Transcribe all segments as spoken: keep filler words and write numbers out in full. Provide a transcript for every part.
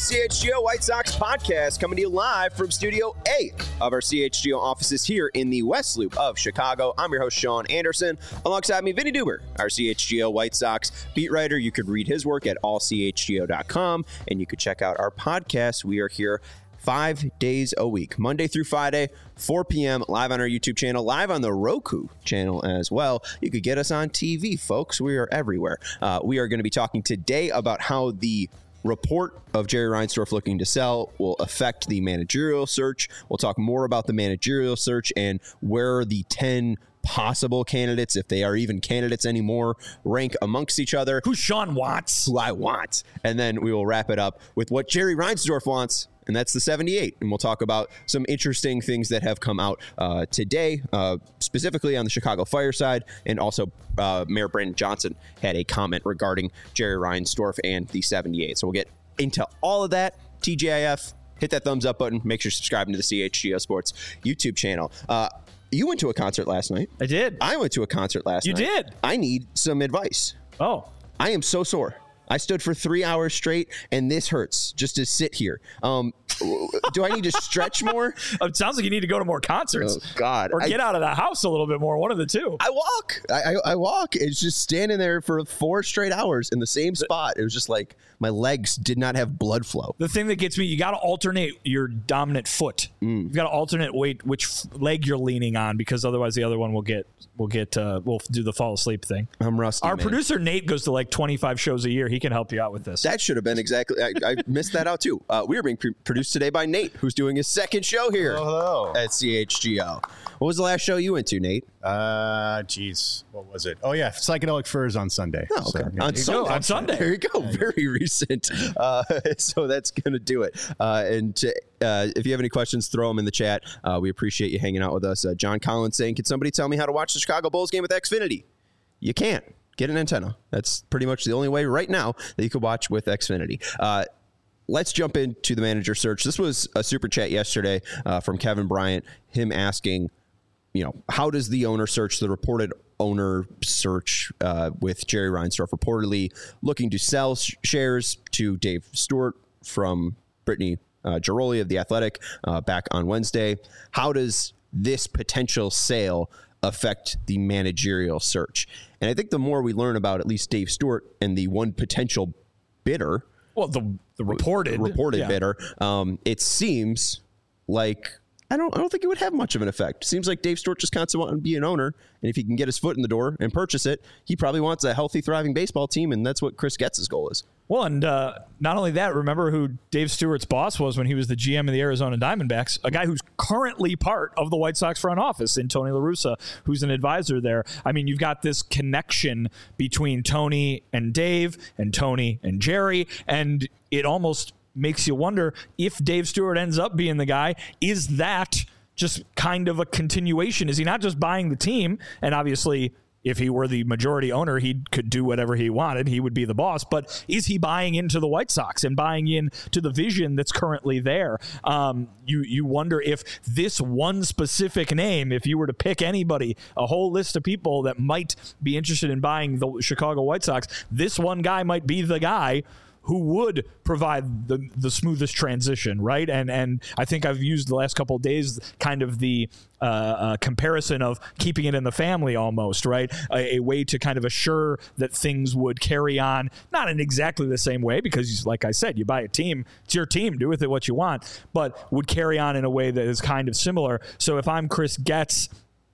C H G O White Sox podcast coming to you live from Studio A of our C H G O offices here in the West Loop of Chicago. I'm your host, Sean Anderson. Alongside me, Vinny Duber, our C H G O White Sox beat writer. You could read his work at all c h g o dot com, and you could check out our podcast. We are here five days a week, Monday through Friday, four p.m., live on our YouTube channel, live on the Roku channel as well. You could get us on T V, folks. We are everywhere. Uh, we are going to be talking today about how the report of Jerry Reinsdorf looking to sell will affect the managerial search. We'll talk more about the managerial search and where the ten possible candidates, if they are even candidates anymore, rank amongst each other. Who Sean wants. Who I want. And then we will wrap it up with what Jerry Reinsdorf wants, and that's the seventy-eight. And we'll talk about some interesting things that have come out uh, today, uh, specifically on the Chicago Fire side. And also uh, Mayor Brandon Johnson had a comment regarding Jerry Reinsdorf and the seventy-eight. So we'll get into all of that. T G I F, hit that thumbs up button. Make sure you're subscribing to the C H G O Sports YouTube channel. Uh, you went to a concert last night. I did. I went to a concert last you night. You did? I need some advice. Oh. I am so sore. I stood for three hours straight, and this hurts just to sit here. Um, do I need to stretch more? It sounds like you need to go to more concerts. Oh, God. Or get I, out of the house a little bit more, one of the two. I walk. I, I, I walk. It's just standing there for four straight hours in the same spot. It was just like my legs did not have blood flow. The thing that gets me, you got to alternate your dominant foot. Mm. You've got to alternate weight, which leg you're leaning on, because otherwise the other one will get, will get, uh, will do the fall asleep thing. I'm rusty, Our man. Producer Nate goes to like twenty-five shows a year. He can help you out with this. That should have been exactly. I, I missed that out too. Uh, we are being pre- produced today by Nate, who's doing his second show here hello, hello. at C H G O. What was the last show you went to, Nate? Uh, geez, what was it? Oh yeah, Psychedelic Furs on Sunday. Oh, okay. So, yeah. on, Sunday. on Sunday. There you go. Very recent. Uh, so that's gonna do it. Uh, and to, uh, if you have any questions, throw them in the chat. Uh, we appreciate you hanging out with us. Uh, John Collins saying, "Can somebody tell me how to watch the Chicago Bulls game with Xfinity?" You can't. Get an antenna. That's pretty much the only way right now that you could watch with Xfinity. Uh, let's jump into the manager search. This was a super chat yesterday uh, from Kevin Bryant, him asking, you know, how does the owner search, the reported owner search uh, with Jerry Reinsdorf reportedly looking to sell sh- shares to Dave Stewart from Brittany uh, Giroli of The Athletic uh, back on Wednesday. How does this potential sale affect the managerial search? And I think the more we learn about at least Dave Stewart and the one potential bidder, well, the the reported reported yeah. bidder, um, it seems like I don't I don't think it would have much of an effect. It seems like Dave Stewart just constantly wants to be an owner, and if he can get his foot in the door and purchase it, he probably wants a healthy, thriving baseball team, and that's what Chris Getz's goal is. Well, and uh, not only that, remember who Dave Stewart's boss was when he was the G M of the Arizona Diamondbacks, a guy who's currently part of the White Sox front office in Tony La Russa, who's an advisor there. I mean, you've got this connection between Tony and Dave and Tony and Jerry, and it almost makes you wonder if Dave Stewart ends up being the guy, is that just kind of a continuation? Is he not just buying the team? And obviously, if he were the majority owner, he could do whatever he wanted. He would be the boss. But is he buying into the White Sox and buying into the vision that's currently there? Um, you you wonder if this one specific name, if you were to pick anybody, a whole list of people that might be interested in buying the Chicago White Sox, this one guy might be the guy who would provide the the smoothest transition, right? And and I think I've used the last couple of days kind of the uh, uh, comparison of keeping it in the family almost, right? A, a way to kind of assure that things would carry on, not in exactly the same way, because like I said, you buy a team, it's your team, do with it what you want, but would carry on in a way that is kind of similar. So if I'm Chris Getz,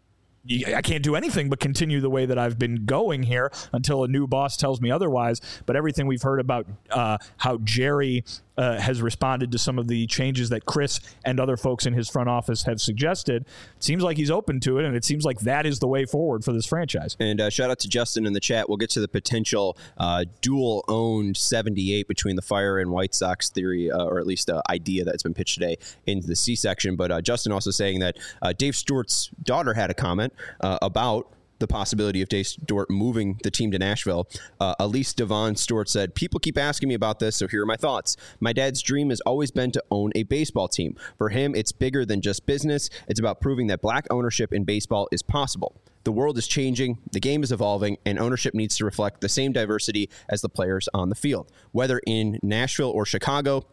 I can't do anything but continue the way that I've been going here until a new boss tells me otherwise. But everything we've heard about uh, how Jerry uh, has responded to some of the changes that Chris and other folks in his front office have suggested, it seems like he's open to it, and it seems like that is the way forward for this franchise. And uh, shout out to Justin in the chat. We'll get to the potential uh, dual-owned seventy-eight between the Fire and White Sox theory, uh, or at least uh, idea that's been pitched today in the C-section. But uh, Justin also saying that uh, Dave Stewart's daughter had a comment uh, about the possibility of Dave Stewart moving the team to Nashville. Uh, Elise Devon Stewart said, "People keep asking me about this, so here are my thoughts. My dad's dream has always been to own a baseball team. For him, it's bigger than just business. It's about proving that black ownership in baseball is possible. The world is changing, the game is evolving, and ownership needs to reflect the same diversity as the players on the field. Whether in Nashville or Chicago,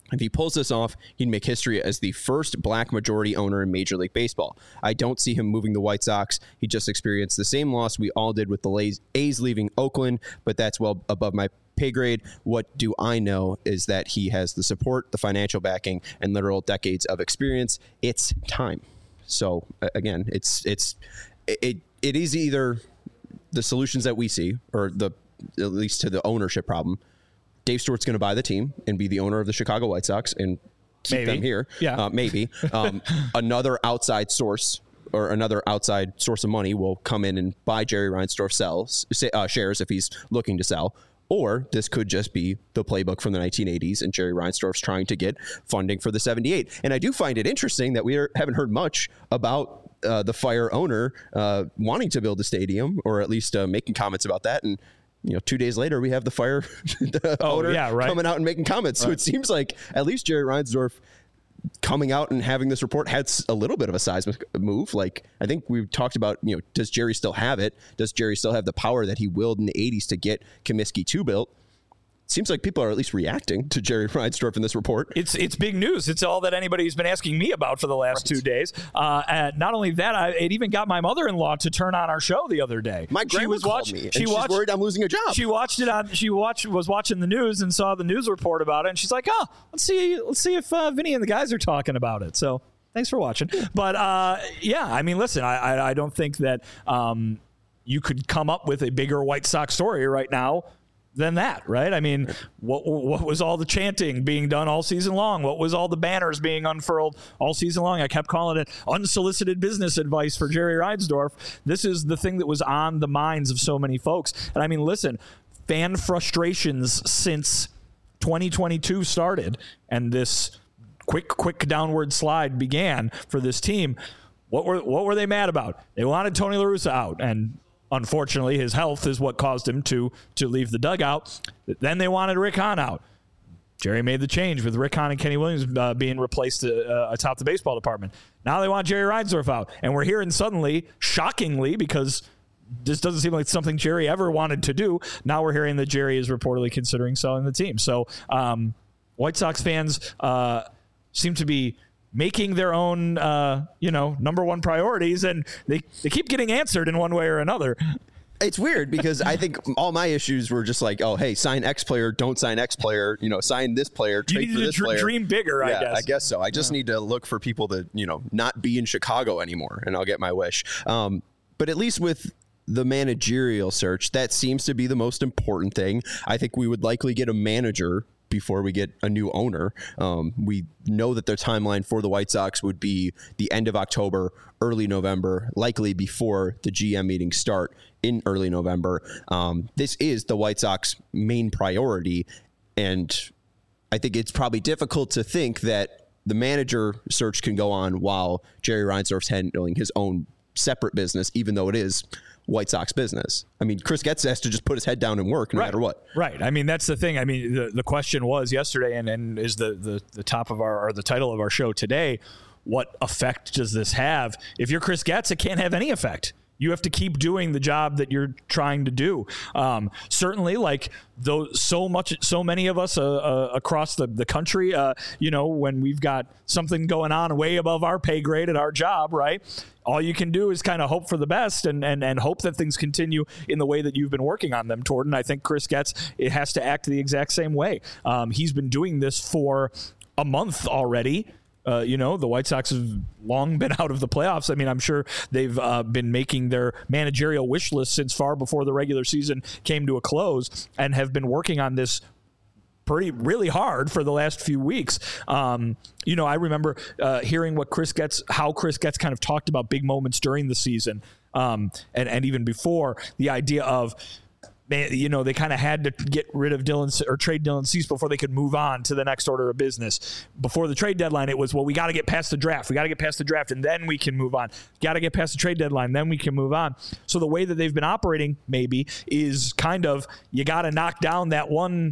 If he pulls this off, he'd make history as the first black majority owner in Major League Baseball. I don't see him moving the White Sox. He just experienced the same loss we all did with the A's leaving Oakland, but that's well above my pay grade. What do I know is that he has the support, the financial backing, and literal decades of experience. It's time. So again, it's it's it it is either the solutions that we see, or the at least to the ownership problem. Dave Stewart's going to buy the team and be the owner of the Chicago White Sox and keep maybe. them here. Yeah, uh, maybe um, another outside source or another outside source of money will come in and buy Jerry Reinsdorf sells uh, shares if he's looking to sell. Or this could just be the playbook from the nineteen eighties, and Jerry Reinsdorf's trying to get funding for the seventy-eight. And I do find it interesting that we are, haven't heard much about uh, the Fire owner uh, wanting to build a stadium, or at least uh, making comments about that. And you know, two days later, we have the Fire the oh, owner yeah, right. coming out and making comments. Right. So it seems like at least Jerry Reinsdorf coming out and having this report had a little bit of a seismic move. Like, I think we've talked about, you know, does Jerry still have it? Does Jerry still have the power that he willed in the eighties to get Comiskey two built? Seems like people are at least reacting to Jerry Reinsdorf in this report. It's it's big news. It's all that anybody's been asking me about for the last right. two days. Uh, and not only that, I, it even got my mother-in-law to turn on our show the other day. My grandma she was called watch, me, and she she's watched, worried I'm losing a job. She watched it on. She watched was watching the news and saw the news report about it, and she's like, "Oh, let's see, let's see if uh, Vinny and the guys are talking about it." So thanks for watching. But uh, yeah, I mean, listen, I I, I don't think that um, you could come up with a bigger White Sox story right now than that, right? I mean, what what was all the chanting being done all season long? What was all the banners being unfurled all season long? I kept calling it unsolicited business advice for Jerry Reinsdorf. This is the thing that was on the minds of so many folks. And I mean, listen, fan frustrations since twenty twenty-two started and this quick, quick downward slide began for this team. What were what were they mad about? They wanted Tony La Russa out, and unfortunately, his health is what caused him to to leave the dugout. Then they wanted Rick Hahn out. Jerry made the change with Rick Hahn and Kenny Williams uh, being replaced uh, atop the baseball department. Now they want Jerry Reinsdorf out. And we're hearing suddenly, shockingly, because this doesn't seem like something Jerry ever wanted to do, now we're hearing that Jerry is reportedly considering selling the team. So um, White Sox fans uh, seem to be making their own, uh, you know, number one priorities, and they, they keep getting answered in one way or another. It's weird because I think all my issues were just like, oh, hey, sign X player, don't sign X player, you know, sign this player, trade you for need this to dr- player. dream bigger, yeah, I guess. I guess so. I just yeah. need to look for people to, you know, not be in Chicago anymore, and I'll get my wish. Um, but at least with the managerial search, that seems to be the most important thing. I think we would likely get a manager before we get a new owner. Um, we know that their timeline for the White Sox would be the end of October, early November, likely before the G M meetings start in early November. Um, this is the White Sox main priority, and I think it's probably difficult to think that the manager search can go on while Jerry Reinsdorf's handling his own separate business, even though it is White Sox business. I mean, Chris Getz has to just put his head down and work no right. matter what. Right. I mean, that's the thing. I mean, the, the question was yesterday, and, and is the, the, the top of our, or the title of our show today, what effect does this have? If you're Chris Getz, it can't have any effect. You have to keep doing the job that you're trying to do. Um, certainly, like though, so much, so many of us uh, uh, across the the country, uh, you know, when we've got something going on way above our pay grade at our job, right? All you can do is kind of hope for the best and and and hope that things continue in the way that you've been working on them, Torton. I think Chris Getz, it has to act the exact same way. Um, he's been doing this for a month already. Uh, you know, the White Sox have long been out of the playoffs. I mean, I'm sure they've uh, been making their managerial wish list since far before the regular season came to a close and have been working on this pretty, really hard for the last few weeks. Um, you know, I remember uh, hearing what Chris Getz, how Chris Getz kind of talked about big moments during the season um, and, and even before, the idea of, man, you know, they kind of had to get rid of Dylan or trade Dylan Cease before they could move on to the next order of business. Before the trade deadline, it was, well, we got to get past the draft. We got to get past the draft, and then we can move on. Got to get past the trade deadline, then we can move on. So the way that they've been operating, maybe, is kind of, you got to knock down that one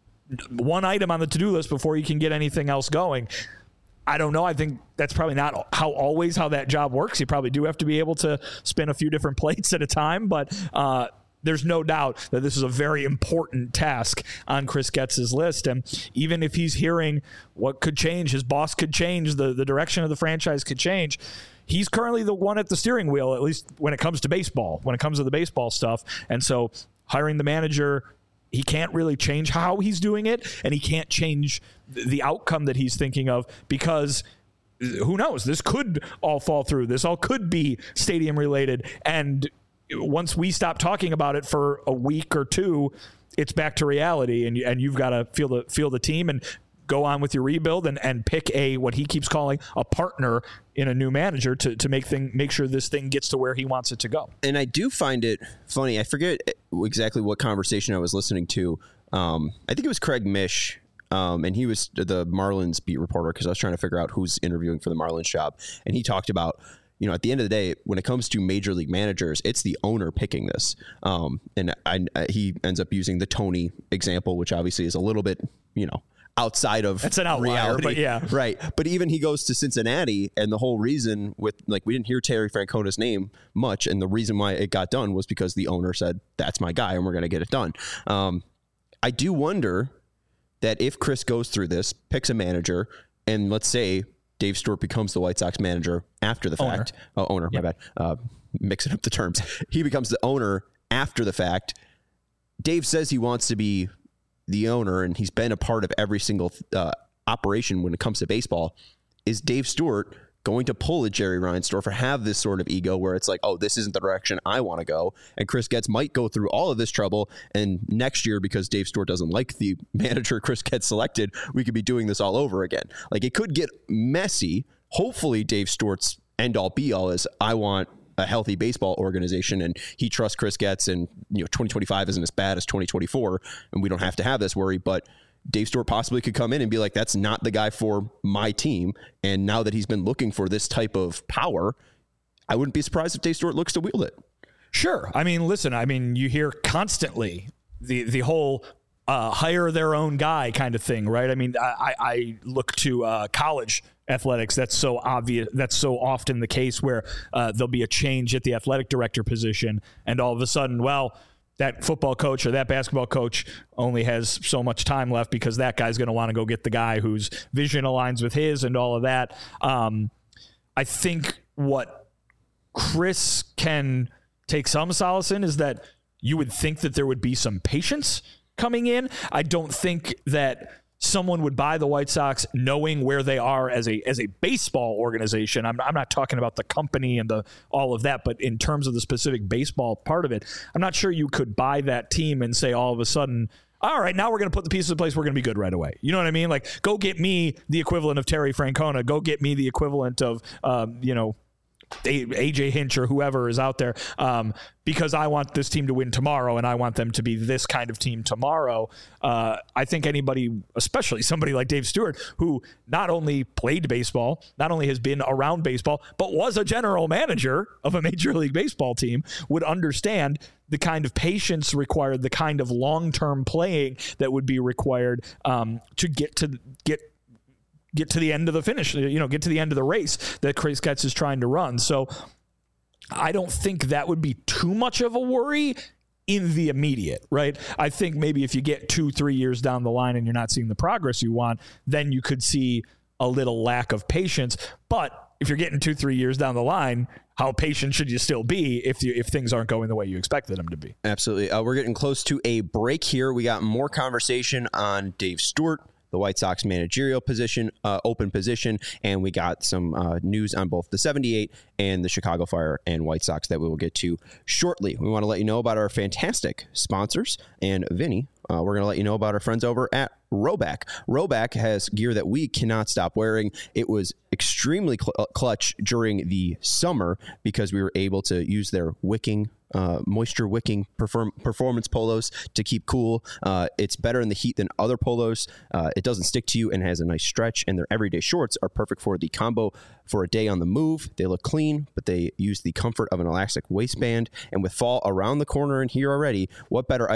one item on the to-do list before you can get anything else going. I don't know. I think that's probably not how always how that job works. You probably do have to be able to spin a few different plates at a time, but uh, there's no doubt that this is a very important task on Chris Getz's list. And even if he's hearing what could change, his boss could change, the, the direction of the franchise could change, he's currently the one at the steering wheel, at least when it comes to baseball, when it comes to the baseball stuff. And so hiring the manager, he can't really change how he's doing it, and he can't change the outcome that he's thinking of, because who knows? This could all fall through. This all could be stadium related. And once we stop talking about it for a week or two, it's back to reality, and and you've got to feel the feel the team and go on with your rebuild and, and pick a, what he keeps calling a partner in a new manager to, to make thing, make sure this thing gets to where he wants it to go. And I do find it funny. I forget exactly what conversation I was listening to. Um, I think it was Craig Mish, um, and he was the Marlins beat reporter, because I was trying to figure out who's interviewing for the Marlins job. And he talked about, you know, at the end of the day, when it comes to major league managers, it's the owner picking this. Um, and I, I, he ends up using the Tony example, which obviously is a little bit, you know, outside of it's an outlier, reality. But yeah, right. But even he goes to Cincinnati, and the whole reason with, like, we didn't hear Terry Francona's name much, and the reason why it got done was because the owner said, that's my guy, and we're going to get it done. Um, I do wonder that if Chris goes through this, picks a manager, and let's say Dave Stewart becomes the White Sox manager after the owner. fact. Oh, owner, yep. my bad. Uh, mixing up the terms. He becomes the owner after the fact. Dave says he wants to be the owner, and he's been a part of every single uh, operation when it comes to baseball. Is Dave Stewart going to pull a Jerry Reinsdorf or have this sort of ego where it's like, oh, this isn't the direction I want to go? And Chris Getz might go through all of this trouble, and next year, because Dave Stewart doesn't like the manager Chris Getz selected, we could be doing this all over again. Like, it could get messy. Hopefully Dave Stewart's end all be all is, I want a healthy baseball organization, and he trusts Chris Getz, and you know, twenty twenty-five isn't as bad as twenty twenty-four, and we don't have to have this worry. But Dave Stewart possibly could come in and be like, that's not the guy for my team. And now that he's been looking for this type of power, I wouldn't be surprised if Dave Stewart looks to wield it. Sure. I mean, listen, I mean, you hear constantly the, the whole uh, hire their own guy kind of thing, right? I mean, I, I look to uh, college athletics. That's so obvious. That's so often the case where uh, there'll be a change at the athletic director position, and all of a sudden, well, that football coach or that basketball coach only has so much time left because that guy's going to want to go get the guy whose vision aligns with his and all of that. Um, I think what Chris can take some solace in is that you would think that there would be some patience coming in. I don't think that someone would buy the White Sox knowing where they are as a as a baseball organization. I'm, I'm not talking about the company and the all of that, but in terms of the specific baseball part of it, I'm not sure you could buy that team and say all of a sudden, all right, now we're going to put the pieces in place, we're going to be good right away. You know what I mean? Like, go get me the equivalent of Terry Francona. Go get me the equivalent of, um, you know, A J Hinch or whoever is out there, um, because I want this team to win tomorrow and I want them to be this kind of team tomorrow. Uh, I think anybody, especially somebody like Dave Stewart, who not only played baseball, not only has been around baseball, but was a general manager of a Major League Baseball team, would understand the kind of patience required, the kind of long-term playing that would be required um, to get to get get to the end of the finish, you know, get to the end of the race that Chris Getz is trying to run. So I don't think that would be too much of a worry in the immediate, right? I think maybe if you get two, three years down the line and you're not seeing the progress you want, then you could see a little lack of patience. But if you're getting two, three years down the line, how patient should you still be if you, if things aren't going the way you expected them to be? Absolutely. Uh, we're getting close to a break here. We got more conversation on Dave Stewart, the White Sox managerial position, uh, open position, and we got some uh, news on both the seventy-eight and the Chicago Fire and White Sox that we will get to shortly. We want to let you know about our fantastic sponsors, and Vinny, uh, we're going to let you know about our friends over at Rhoback. Rhoback has gear that we cannot stop wearing. It was extremely cl- clutch during the summer because we were able to use their wicking Uh, moisture wicking perform- performance polos to keep cool. Uh, it's better in the heat than other polos. Uh, it doesn't stick to you and has a nice stretch, and their everyday shorts are perfect for the combo for a day on the move. They look clean, but they use the comfort of an elastic waistband, and with fall around the corner and here already, what better item to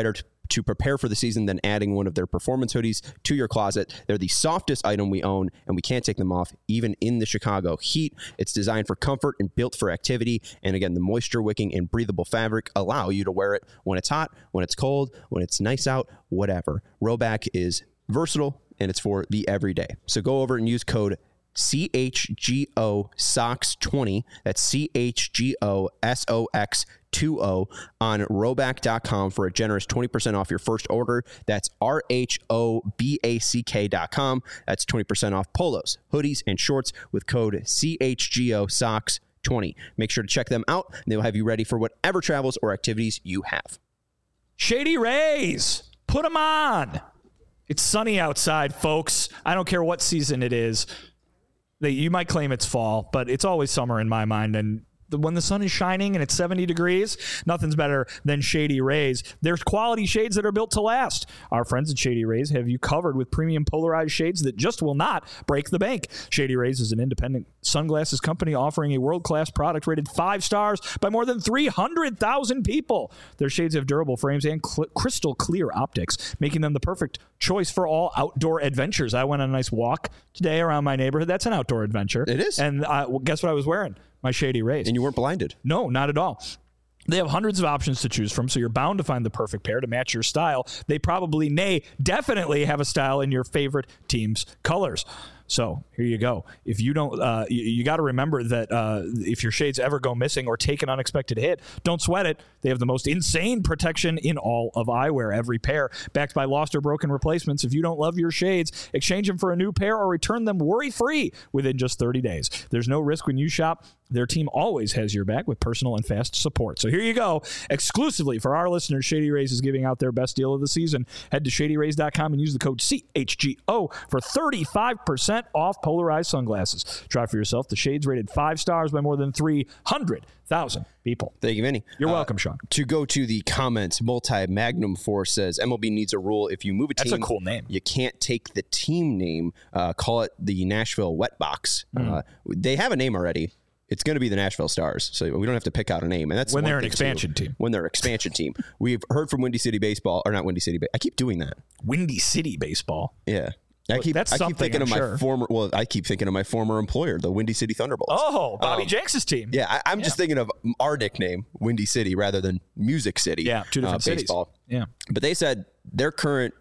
to prepare for the season than adding one of their performance hoodies to your closet. They're the softest item we own, and we can't take them off even in the Chicago heat. It's designed for comfort and built for activity. And again, the moisture wicking and breathable fabric allow you to wear it when it's hot, when it's cold, when it's nice out, whatever. Rhoback is versatile, and it's for the everyday. So go over and use code C H G O S O X twenty. That's C H G O S O X twenty on rhoback dot com for a generous twenty percent off your first order. That's R H O B A C K dot com. That's twenty percent off polos, hoodies, and shorts with code C H G O S O X twenty. Make sure to check them out, and they will have you ready for whatever travels or activities you have. Shady Rays, put them on. It's sunny outside, folks. I don't care what season it is. They, you might claim it's fall, but it's always summer in my mind. And the, when the sun is shining and it's seventy degrees, nothing's better than Shady Rays. There's quality shades that are built to last. Our friends at Shady Rays have you covered with premium polarized shades that just will not break the bank. Shady Rays is an independent sunglasses company offering a world-class product rated five stars by more than three hundred thousand people. Their shades have durable frames and cl- crystal clear optics, making them the perfect choice for all outdoor adventures. I went on a nice walk today around my neighborhood. That's an outdoor adventure. It is. And uh, well, guess what I was wearing? My Shady Rays. And you weren't blinded? No, not at all. They have hundreds of options to choose from, so you're bound to find the perfect pair to match your style. They probably, nay, definitely have a style in your favorite team's colors. So here you go. If you don't, uh, you, you got to remember that uh, if your shades ever go missing or take an unexpected hit, don't sweat it. They have the most insane protection in all of eyewear. Every pair backed by lost or broken replacements. If you don't love your shades, exchange them for a new pair or return them worry-free within just thirty days. There's no risk when you shop. Their team always has your back with personal and fast support. So here you go. Exclusively for our listeners, Shady Rays is giving out their best deal of the season. Head to shady rays dot com and use the code C H G O for thirty-five percent off polarized sunglasses. Try for yourself the shades rated five stars by more than three hundred thousand people. Thank you, Vinny. You're uh, welcome, Sean. To go to the comments, Multi-Magnum Force says, M L B needs a rule. If you move a team, That's a cool name. You can't take the team name. Uh, call it the Nashville Wet Box. Mm. Uh, they have a name already. It's going to be the Nashville Stars, so we don't have to pick out a name. And that's when they're an thing expansion too. team. When they're an expansion team. We've heard from Windy City Baseball, or not Windy City, but I keep doing that. Windy City Baseball. Yeah. I keep, that's I keep thinking I'm of my sure. former. Well, I keep thinking of my former employer, the Windy City Thunderbolts. Oh, Bobby um, Jenks' team. Yeah, I, I'm yeah. just thinking of our nickname, Windy City, rather than Music City. Yeah, two different uh, cities. Baseball. Yeah, but they said their current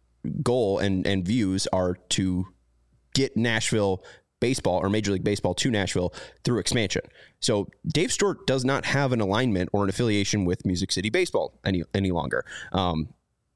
goal and and views are to get Nashville baseball or Major League Baseball to Nashville through expansion. So Dave Stewart does not have an alignment or an affiliation with Music City Baseball any any longer. Um,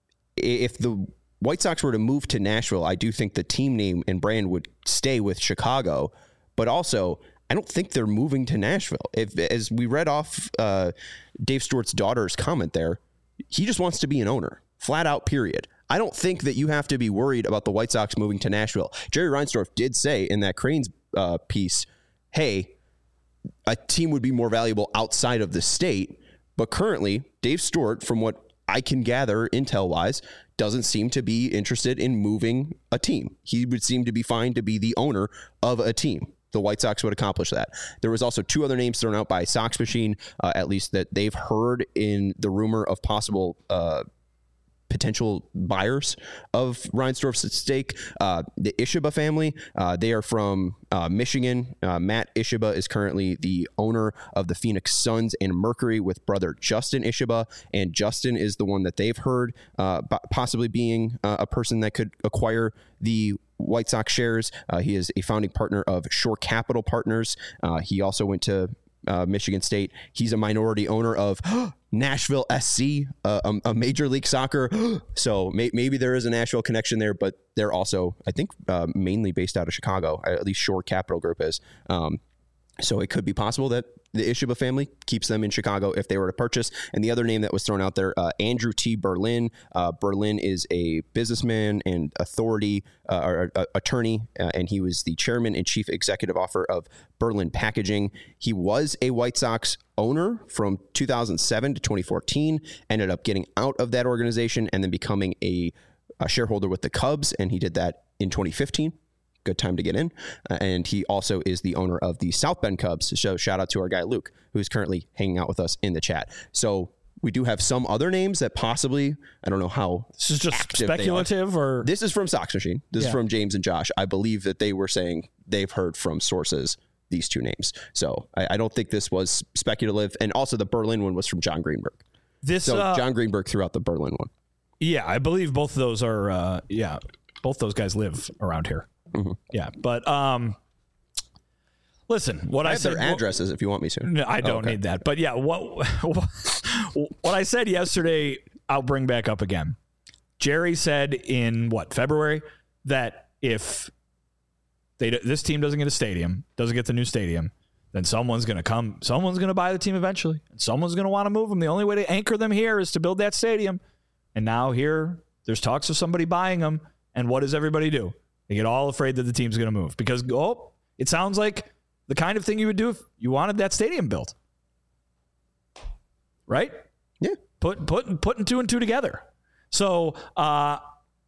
if the White Sox were to move to Nashville, I do think the team name and brand would stay with Chicago, but also I don't think they're moving to Nashville. If, as we read off uh, Dave Stewart's daughter's comment there, he just wants to be an owner, flat out, period. I don't think that you have to be worried about the White Sox moving to Nashville. Jerry Reinsdorf did say in that Cranes uh, piece, hey, a team would be more valuable outside of the state, but currently Dave Stewart, from what I can gather intel-wise, doesn't seem to be interested in moving a team. He would seem to be fine to be the owner of a team. The White Sox would accomplish that. There was also two other names thrown out by Sox Machine, uh, at least that they've heard in the rumor of possible uh, potential buyers of Reinsdorf's stake. Uh, the Ishiba family, uh, they are from uh, Michigan. Uh, Matt Ishiba is currently the owner of the Phoenix Suns and Mercury with brother Justin Ishiba, and Justin is the one that they've heard uh, possibly being uh, a person that could acquire the White Sox shares. Uh, he is a founding partner of Shore Capital Partners. Uh, he also went to uh, Michigan State. He's a minority owner of Nashville S C, uh, a, a Major League Soccer. So may, maybe there is a Nashville connection there, but they're also, I think, uh, mainly based out of Chicago. At least Shore Capital Group is. Um, so it could be possible that the Ishiba family keeps them in Chicago if they were to purchase. And the other name that was thrown out there, uh, Andrew T. Berlin. Uh, Berlin is a businessman and authority uh, or uh, attorney, uh, and he was the chairman and chief executive officer of Berlin Packaging. He was a White Sox owner from two thousand seven to twenty fourteen, ended up getting out of that organization and then becoming a, a shareholder with the Cubs, and he did that in twenty fifteen. Good time to get in. Uh, and he also is the owner of the South Bend Cubs. So shout out to our guy, Luke, who's currently hanging out with us in the chat. So We do have some other names that possibly, I don't know how. This is just speculative, or this is from Sox Machine. This yeah. is from James and Josh. I believe that they were saying they've heard from sources these two names. So I, I don't think this was speculative. And also the Berlin one was from John Greenberg. This so uh, John Greenberg threw out the Berlin one. Yeah, I believe both of those are. Uh, yeah, both those guys live around here. Mm-hmm. Yeah, but um, listen, what I, I have said, their addresses, if you want me to. No, I don't oh, okay. need that. But yeah, what what I said yesterday, I'll bring back up again. Jerry said in what February that if they this team doesn't get a stadium, doesn't get the new stadium, then someone's going to come. Someone's going to buy the team eventually, and someone's going to want to move them. The only way to anchor them here is to build that stadium. And now here, there's talks of somebody buying them. And what does everybody do? They get all afraid that the team's going to move because, oh, it sounds like the kind of thing you would do if you wanted that stadium built. Right? Yeah. Put, put, putting two and two together. So uh,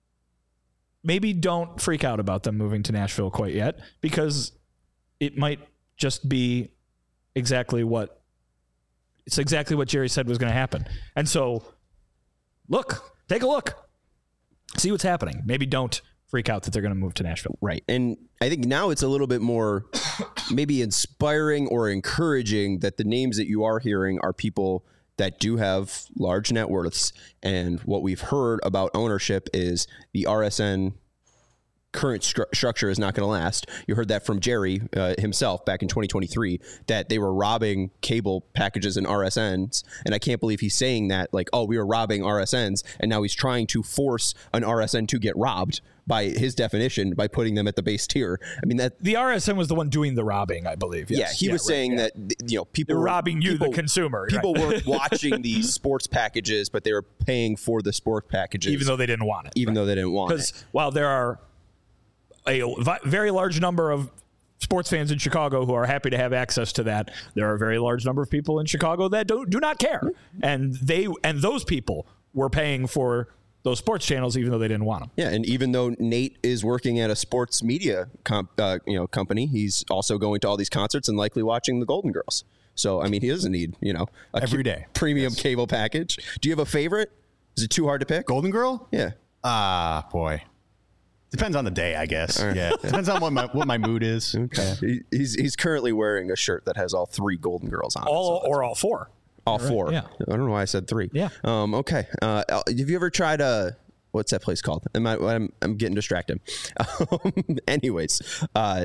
maybe don't freak out about them moving to Nashville quite yet, because it might just be exactly what it's exactly what Jerry said was going to happen. And so look, take a look, see what's happening. Maybe don't freak out that they're going to move to Nashville. Right. And I think now it's a little bit more maybe inspiring or encouraging that the names that you are hearing are people that do have large net worths. And what we've heard about ownership is the R S N current stru- structure is not going to last. You heard that from Jerry uh, himself back in twenty twenty-three, that they were robbing cable packages and R S Ns. And I can't believe he's saying that, like, oh, we were robbing R S Ns. And now he's trying to force an R S N to get robbed by his definition, by putting them at the base tier. I mean, that the R S N was the one doing the robbing, I believe. Yes. Yeah, he yeah, was right, saying yeah. that, you know, people They're were robbing you, people, the consumer. People right. weren't watching these sports packages, but they were paying for the sports packages. Even though they didn't want it. Even right. though they didn't want it. Because while there are a very large number of sports fans in Chicago who are happy to have access to that, there are a very large number of people in Chicago that don't do not care, and they and those people were paying for those sports channels even though they didn't want them. Yeah, and even though Nate is working at a sports media comp, uh, you know company, he's also going to all these concerts and likely watching the Golden Girls. So I mean, he doesn't need you know a every day premium yes. cable package. Do you have a favorite? Is it too hard to pick? Golden Girl? Yeah. Ah, boy. Depends on the day, I guess. Right. Yeah, depends on what my what my mood is. Okay. He, he's he's currently wearing a shirt that has all three Golden Girls on all it. So or all four. All right. four. Yeah. I don't know why I said three. Yeah. Um. Okay. Uh. Have you ever tried a what's that place called? Am I? I'm I'm getting distracted. Um, anyways, uh,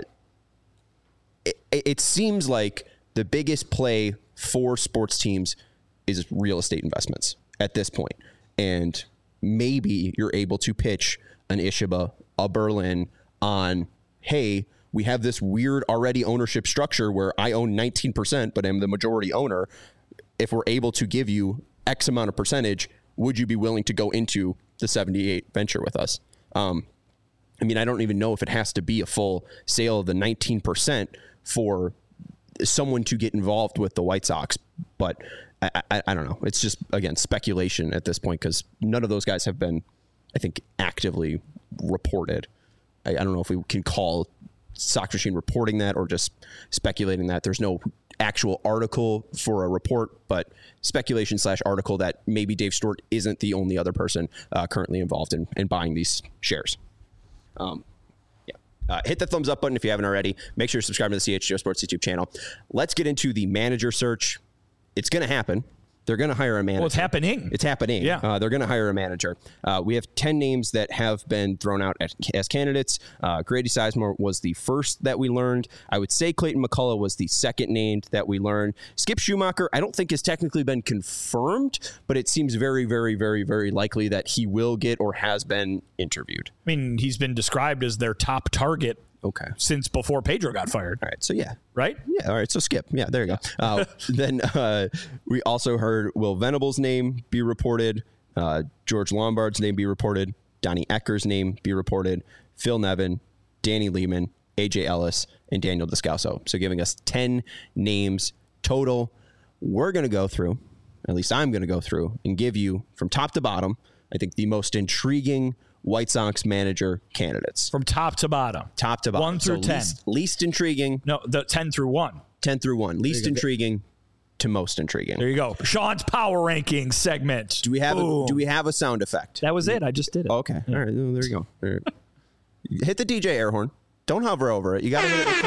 it, it seems like the biggest play for sports teams is real estate investments at this point, and maybe you're able to pitch an Ishiba, a Berlin on, hey, we have this weird already ownership structure where I own nineteen percent, but I'm the majority owner. If we're able to give you X amount of percentage, would you be willing to go into the seventy-eight venture with us? Um, I mean, I don't even know if it has to be a full sale of the nineteen percent for someone to get involved with the White Sox, but I, I, I don't know. It's just, again, speculation at this point because none of those guys have been, I think, actively reported. I, I don't know if we can call Sox Machine reporting that or just speculating that. There's no actual article for a report, but speculation slash article that maybe Dave Stewart isn't the only other person uh, currently involved in, in buying these shares. Um, yeah. Uh, hit the thumbs up button if you haven't already. Make sure to subscribe to the C H G O Sports YouTube channel. Let's get into the manager search. It's going to happen. They're going to hire a manager. Well, it's happening. It's happening. Yeah. Uh, they're going to hire a manager. Uh, we have ten names that have been thrown out as, as candidates. Uh, Grady Sizemore was the first that we learned. I would say Clayton McCullough was the second named that we learned. Skip Schumacher, I don't think has technically been confirmed, but it seems very, very, very, very likely that he will get or has been interviewed. I mean, he's been described as their top target. Okay. Since before Pedro got fired. All right. So, yeah. Right? Yeah. All right. So, Skip. Yeah, there you go. Uh, then uh, we also heard Will Venable's name be reported, uh, George Lombard's name be reported, Donnie Ecker's name be reported, Phil Nevin, Danny Lehman, A J Ellis, and Daniel Descalso. So, giving us ten names total. We're going to go through, at least I'm going to go through, and give you from top to bottom, I think, the most intriguing White Sox manager candidates. From top to bottom. Top to bottom. One through so ten. Least, least intriguing. No, the ten through one. ten through one. Least intriguing to most intriguing. There you go. Sean's power ranking segment. Do we have Boom. a, do we have a sound effect? That was it. I just did it. Okay. All right. Well, there you go. All right. Hit the D J air horn. Don't hover over it. You got to hit it.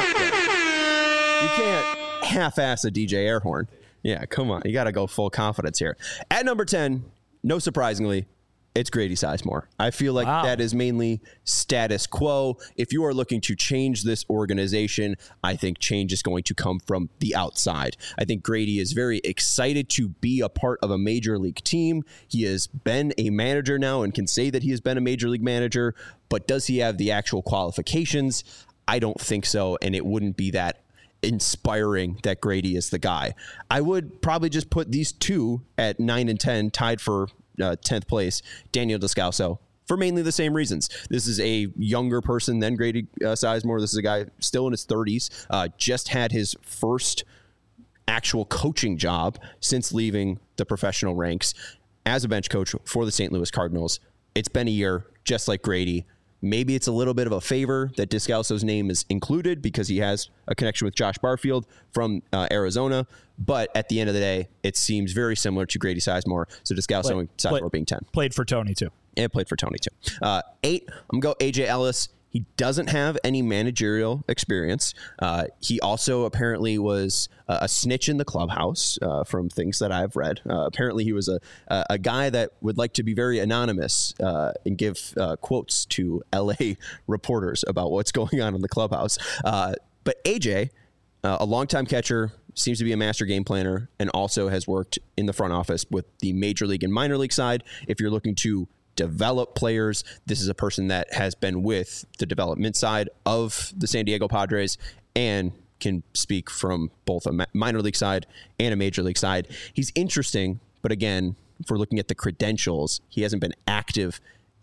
You can't half-ass a D J air horn. Yeah, come on. You got to go full confidence here. At number ten, no surprisingly, it's Grady Sizemore. I feel like wow. that is mainly status quo. If you are looking to change this organization, I think change is going to come from the outside. I think Grady is very excited to be a part of a major league team. He has been a manager now and can say that he has been a major league manager, but does he have the actual qualifications? I don't think so, and it wouldn't be that inspiring that Grady is the guy. I would probably just put these two at nine and ten, tied for uh, tenth place, Daniel Descalso, for mainly the same reasons. This is a younger person than Grady uh, Sizemore. This is a guy still in his thirties, uh, just had his first actual coaching job since leaving the professional ranks as a bench coach for the Saint Louis Cardinals. It's been a year, just like Grady. Maybe it's a little bit of a favor that Descalso's name is included because he has a connection with Josh Barfield from uh, Arizona. But at the end of the day, it seems very similar to Grady Sizemore. So Descalso Play, and Sizemore play, being ten. Played for Tony, too. And played for Tony, too. Uh, eight, I'm going to go A J Ellis. He doesn't have any managerial experience. Uh, he also apparently was uh, a snitch in the clubhouse uh, from things that I've read. Uh, apparently he was a, a a guy that would like to be very anonymous uh, and give uh, quotes to L A reporters about what's going on in the clubhouse. Uh, but A J, uh, a longtime catcher, seems to be a master game planner and also has worked in the front office with the major league and minor league side. If you're looking to develop players, this is a person that has been with the development side of the San Diego Padres and can speak from both a minor league side and a major league side. He's interesting, but again, if we're looking at the credentials, he hasn't been active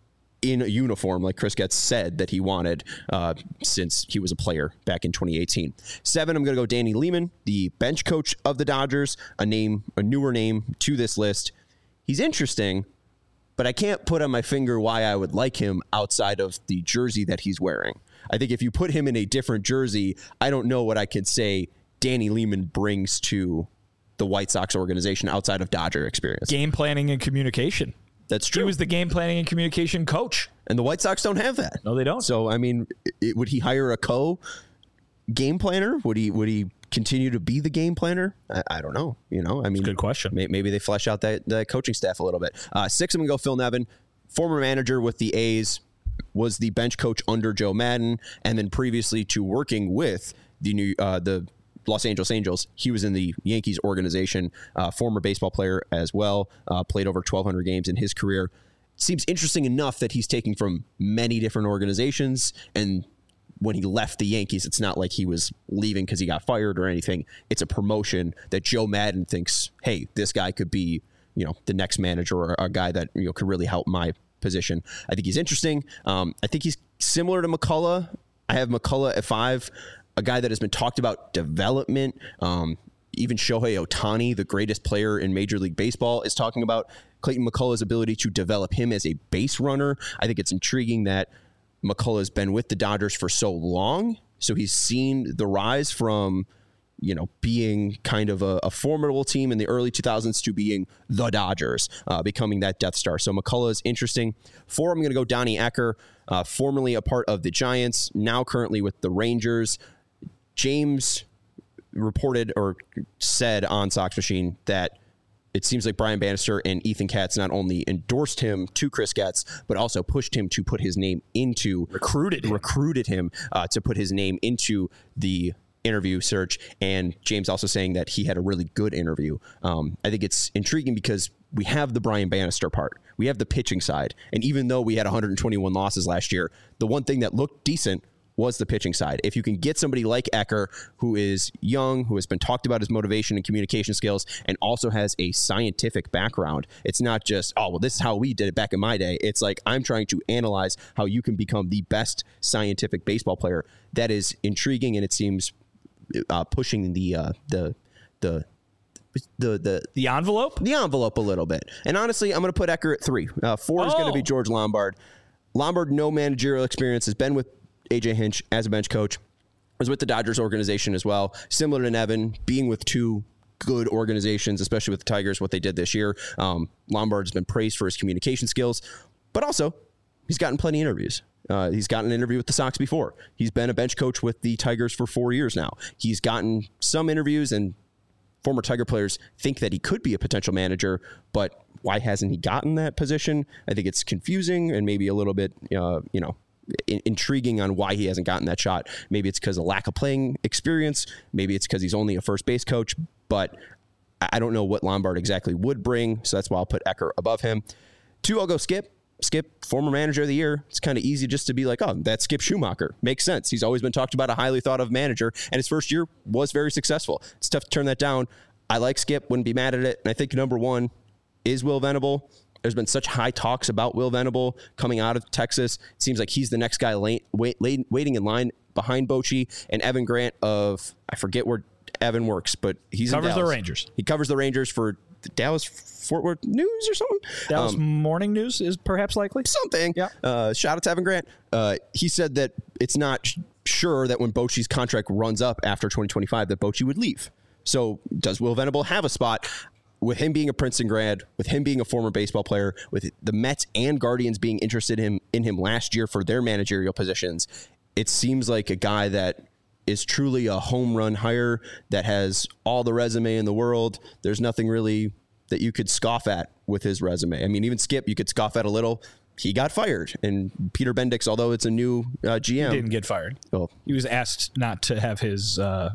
in a uniform like Chris Getz said that he wanted uh, since he was a player back in twenty eighteen. Seven, I'm going to go Danny Lehman, the bench coach of the Dodgers, a name, a newer name to this list. He's interesting, but I can't put on my finger why I would like him outside of the jersey that he's wearing. I think if you put him in a different jersey, I don't know what I could say Danny Lehman brings to the White Sox organization outside of Dodger experience. Game planning and communication. That's true. He was the game planning and communication coach. And the White Sox don't have that. No, they don't. So, I mean, it, would he hire a co-game planner? Would he Would he continue to be the game planner? I, I don't know. You know, I mean, good question. May, maybe they flesh out that, that coaching staff a little bit. Uh, six, I'm going to go Phil Nevin, former manager with the A's, was the bench coach under Joe Madden, and then previously to working with the new uh, the Los Angeles Angels, he was in the Yankees organization, uh, former baseball player as well, uh, played over twelve hundred games in his career. Seems interesting enough that he's taking from many different organizations, and when he left the Yankees, it's not like he was leaving because he got fired or anything. It's a promotion that Joe Madden thinks, hey, this guy could be, you know, the next manager or a guy that, you know, could really help my position. I think he's interesting. Um, I think he's similar to McCullough. I have McCullough at five, a guy that has been talked about development. Um, even Shohei Ohtani, the greatest player in Major League Baseball, is talking about Clayton McCullough's ability to develop him as a base runner. I think it's intriguing that McCullough has been with the Dodgers for so long, so he's seen the rise from, you know, being kind of a, a formidable team in the early two thousands to being the Dodgers, uh, becoming that Death Star. So McCullough is interesting. Four, I'm going to go Donnie Ecker, uh, formerly a part of the Giants, now currently with the Rangers. James reported or said on Sox Machine that it seems like Brian Bannister and Ethan Katz not only endorsed him to Chris Getz, but also pushed him to put his name into recruited him. recruited him uh, to put his name into the interview search. And James also saying that he had a really good interview. Um, I think it's intriguing because we have the Brian Bannister part. We have the pitching side. And even though we had one hundred twenty-one losses last year, the one thing that looked decent was the pitching side. If you can get somebody like Ecker, who is young, who has been talked about his motivation and communication skills, and also has a scientific background, it's not just, oh, well, this is how we did it back in my day. It's like, I'm trying to analyze how you can become the best scientific baseball player. That is intriguing, and it seems uh, pushing the uh, the the the the the envelope, the envelope a little bit. And honestly, I'm going to put Ecker at three. Uh, four oh. is going to be George Lombard. Lombard, no managerial experience, has been with A J Hinch as a bench coach, was with the Dodgers organization as well. Similar to Nevin, being with two good organizations, especially with the Tigers, what they did this year. Um, Lombard's been praised for his communication skills, but also he's gotten plenty of interviews. Uh, he's gotten an interview with the Sox before. He's been a bench coach with the Tigers for four years now. He's gotten some interviews, and former Tiger players think that he could be a potential manager, but why hasn't he gotten that position? I think it's confusing and maybe a little bit, uh, you know, in- intriguing on why he hasn't gotten that shot. Maybe it's because of lack of playing experience. Maybe it's because he's only a first base coach, but I don't know what Lombard exactly would bring, so that's why I'll put Ecker above him. Two, I'll go Skip. Skip, former manager of the year. It's kind of easy just to be like, oh, that's Skip Schumacher. Makes sense. He's always been talked about a highly thought of manager, and his first year was very successful. It's tough to turn that down. I like Skip, wouldn't be mad at it. And I think number one is Will Venable. There's been such high talks about Will Venable coming out of Texas. It seems like he's the next guy late, wait, late, waiting in line behind Bochy and Evan Grant of, I forget where Evan works, but he's covers in Dallas. the Rangers. He covers the Rangers for the Dallas Fort Worth News or something. Dallas um, Morning News is perhaps likely. Something. Yeah. Uh, shout out to Evan Grant. Uh, he said that it's not sh- sure that when Bochy's contract runs up after twenty twenty-five that Bochy would leave. So does Will Venable have a spot? With him being a Princeton grad, with him being a former baseball player, with the Mets and Guardians being interested in him, in him last year for their managerial positions, it seems like a guy that is truly a home run hire that has all the resume in the world. There's nothing really that you could scoff at with his resume. I mean, even Skip, you could scoff at a little. He got fired. And Peter Bendix, although it's a new uh, G M. He didn't get fired. Oh. He was asked not to have his uh,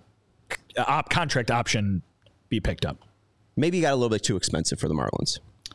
op- contract option be picked up. Maybe he got a little bit too expensive for the Marlins.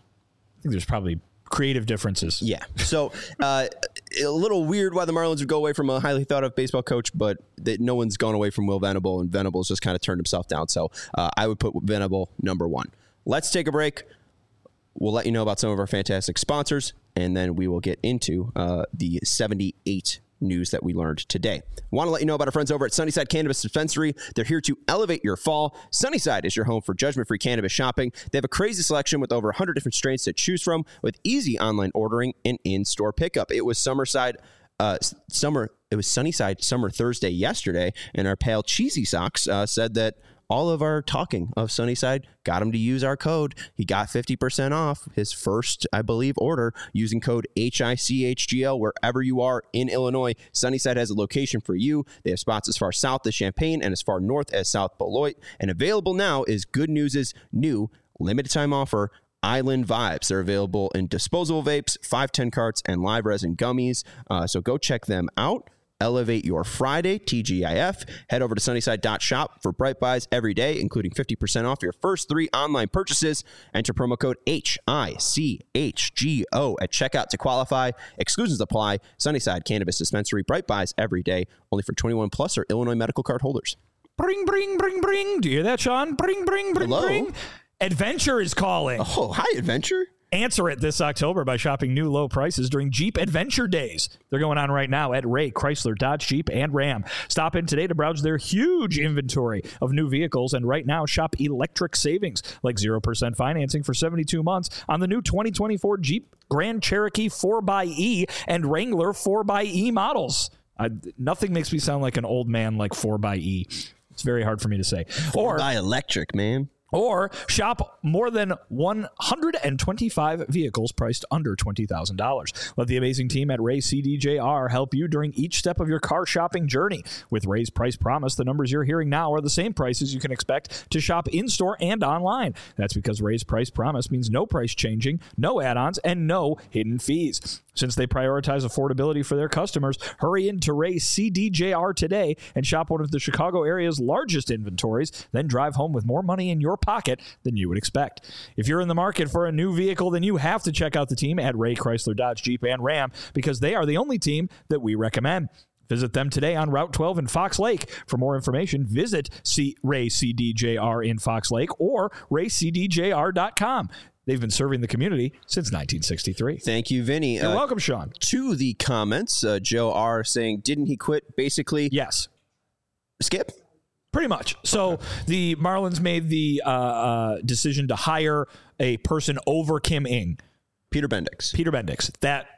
I think there's probably creative differences. Yeah. So uh, a little weird why the Marlins would go away from a highly thought of baseball coach, but that no one's gone away from Will Venable, and Venable's just kind of turned himself down. So uh, I would put Venable number one. Let's take a break. We'll let you know about some of our fantastic sponsors, and then we will get into uh, the seventy-eight news that we learned today. Want to let you know about our friends over at Sunnyside Cannabis Dispensary. They're here to elevate your fall. Sunnyside is your home for judgment-free cannabis shopping. They have a crazy selection with over one hundred different strains to choose from, with easy online ordering and in-store pickup. It was Summerside, uh, summer. It was Sunnyside Summer Thursday yesterday, and our pal Cheesy Socks uh, said that all of our talking of Sunnyside got him to use our code. He got fifty percent off his first, I believe, order using code H I C H G L wherever you are in Illinois. Sunnyside has a location for you. They have spots as far south as Champaign and as far north as South Beloit. And available now is Good News' new limited time offer, Island Vibes. They're available in disposable vapes, five ten carts, and live resin gummies. Uh, so go check them out. Elevate your Friday, T G I F. Head over to sunnyside dot shop for bright buys every day, including fifty percent off your first three online purchases. Enter promo code H I C H G O at checkout to qualify. Exclusions apply. Sunnyside Cannabis Dispensary. Bright buys every day, only for twenty-one plus or Illinois medical card holders. Bring, bring, bring, bring. Do you hear that, Sean? Bring, bring, bring, Hello? bring. Adventure is calling. Oh, hi, Adventure. Answer it this October by shopping new low prices during Jeep Adventure Days. They're going on right now at Ray, Chrysler, Dodge, Jeep, and Ram. Stop in today to browse their huge inventory of new vehicles, and right now shop electric savings like zero percent financing for seventy-two months on the new twenty twenty-four Jeep Grand Cherokee four by E and Wrangler four by E models. I, nothing makes me sound like an old man like four by E. It's very hard for me to say. Or buy electric, man. Or shop more than one hundred twenty-five vehicles priced under twenty thousand dollars. Let the amazing team at Ray C D J R help you during each step of your car shopping journey. With Ray's Price Promise, the numbers you're hearing now are the same prices you can expect to shop in-store and online. That's because Ray's Price Promise means no price changing, no add-ons, and no hidden fees. Since they prioritize affordability for their customers, hurry into Ray C D J R today and shop one of the Chicago area's largest inventories, then drive home with more money in your pocket than you would expect. If you're in the market for a new vehicle, then you have to check out the team at Ray, Chrysler, Dodge, Jeep, and Ram, because they are the only team that we recommend. Visit them today on Route twelve in Fox Lake. For more information, visit C- Ray C D J R in Fox Lake or ray c d j r dot com. They've been serving the community since nineteen sixty-three. Thank you, Vinny. You're uh, welcome, Sean. To the comments, uh, Joe R. saying, didn't he quit? Basically, Yes. Skip? Pretty much. So okay. The Marlins made the uh, uh, decision to hire a person over Kim Ng. Peter Bendix. Peter Bendix. That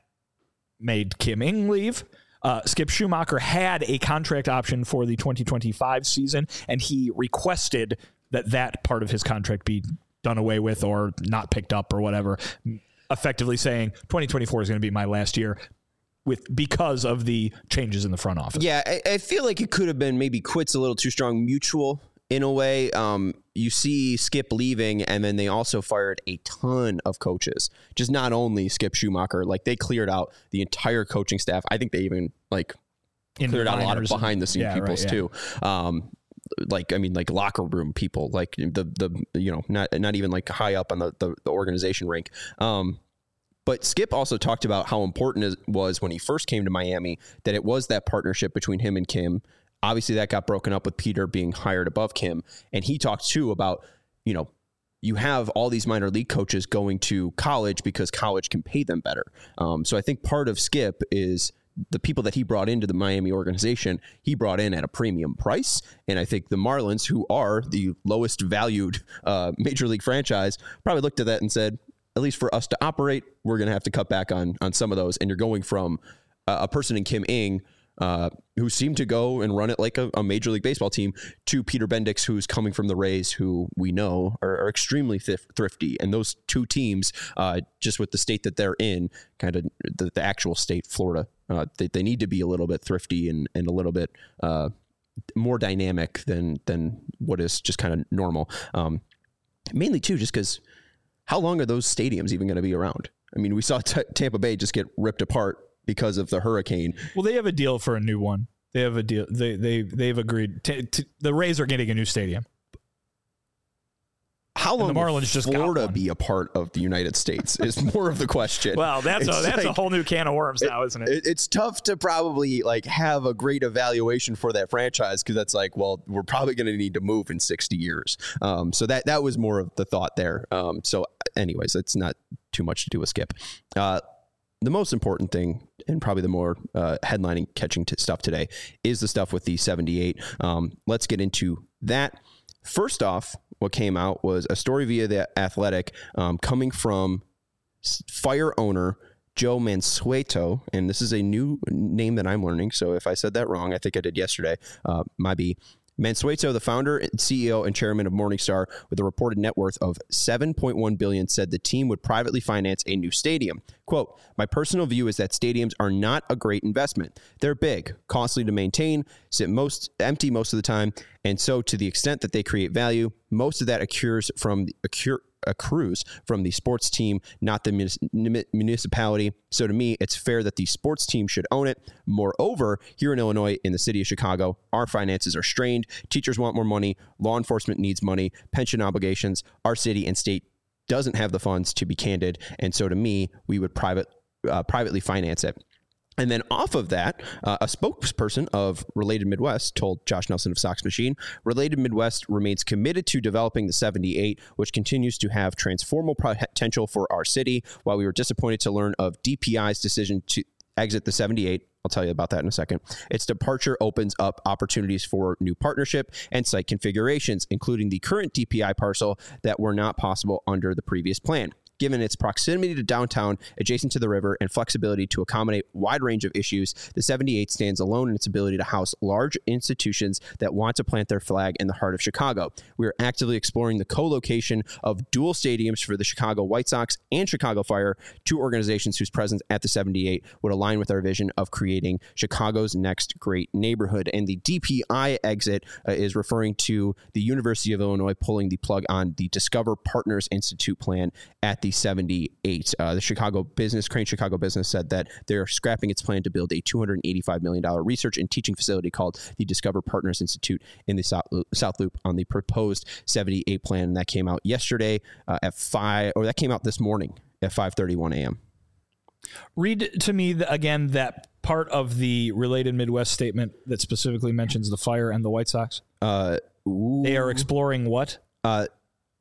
made Kim Ng leave. Uh, Skip Schumacher had a contract option for the twenty twenty-five season, and he requested that that part of his contract be done away with or not picked up or whatever, effectively saying twenty twenty-four is going to be my last year with because of the changes in the front office. Yeah, I, I feel like it could have been maybe quits a little too strong, mutual in a way. Um, you see Skip leaving, and then they also fired a ton of coaches. Just not only Skip Schumacher, like they cleared out the entire coaching staff. I think they even like In cleared out a lot of minors behind the and- scene yeah, peoples right, yeah. too. Um, like I mean, like locker room people, like the the you know not not even like high up on the the, the organization rank. Um, But Skip also talked about how important it was when he first came to Miami that it was that partnership between him and Kim. Obviously, that got broken up with Peter being hired above Kim. And he talked, too, about, you know, you have all these minor league coaches going to college because college can pay them better. Um, so I think part of Skip is the people that he brought into the Miami organization, he brought in at a premium price. And I think the Marlins, who are the lowest valued uh, major league franchise, probably looked at that and said, at least for us to operate, we're going to have to cut back on on some of those. And you're going from uh, a person in Kim Ng, uh, who seemed to go and run it like a, a Major League Baseball team, to Peter Bendix, who's coming from the Rays, who we know are, are extremely thif- thrifty. And those two teams, uh, just with the state that they're in, kind of the, the actual state, Florida, uh, they, they need to be a little bit thrifty and, and a little bit uh, more dynamic than than what is just kind of normal. Um, mainly, too, just because how long are those stadiums even going to be around? I mean, we saw T- Tampa Bay just get ripped apart because of the hurricane. Well, they have a deal for a new one. They have a deal. They they they've agreed. To, to, the Rays are getting a new stadium. How long And the Marlins will just got Florida one. be a part of the United States is more of the question. Well, that's a, It's that's a like- whole new can of worms now, isn't it? It, it's tough to probably like have a great evaluation for that franchise because that's like, well, we're probably going to need to move in sixty years. Um, so that that was more of the thought there. Um, so, anyways, it's not too much to do with Skip. Uh, the most important thing, and probably the more uh, headlining catching t- stuff today, is the stuff with the seventy-eight. Um, let's get into that. First off, what came out was a story via The Athletic um, coming from Fire owner Joe Mansueto, and this is a new name that I'm learning, so if I said that wrong, I think I did yesterday, uh, might be. Mansueto, the founder, C E O, and chairman of Morningstar, with a reported net worth of seven point one billion dollars, said the team would privately finance a new stadium. Quote, "My personal view is that stadiums are not a great investment. They're big, costly to maintain, sit most empty most of the time, and so to the extent that they create value, most of that accrues from the accrue, accrues from the sports team, not the munis- municipality. So to me, it's fair that the sports team should own it. Moreover, here in Illinois, in the city of Chicago, our finances are strained. Teachers want more money. Law enforcement needs money. Pension obligations. Our city and state doesn't have the funds, to be candid. And so to me, we would private uh, privately finance it." And then off of that, uh, a spokesperson of Related Midwest told Josh Nelson of Sox Machine, Related Midwest remains committed to developing the seventy-eight, which continues to have transformational potential for our city. While we were disappointed to learn of D P I's decision to exit the seventy-eight, I'll tell you about that in a second. Its departure opens up opportunities for new partnership and site configurations, including the current D P I parcel that were not possible under the previous plan. Given its proximity to downtown, adjacent to the river, and flexibility to accommodate a wide range of issues, the seventy-eight stands alone in its ability to house large institutions that want to plant their flag in the heart of Chicago. We are actively exploring the co-location of dual stadiums for the Chicago White Sox and Chicago Fire, two organizations whose presence at the seventy-eight would align with our vision of creating Chicago's next great neighborhood. And the D P I exit uh, is referring to the University of Illinois pulling the plug on the Discover Partners Institute plan at the seventy-eight. Uh, the Chicago Business, Crane Chicago Business, said that they're scrapping its plan to build a two hundred eighty-five million dollars research and teaching facility called the Discover Partners Institute in the South Loop, South Loop on the proposed seventy-eight plan. And that came out yesterday uh, at five, or that came out this morning at five thirty-one a.m. Read to me the, again that part of the Related Midwest statement that specifically mentions the Fire and the White Sox. Uh, they are exploring what? Uh,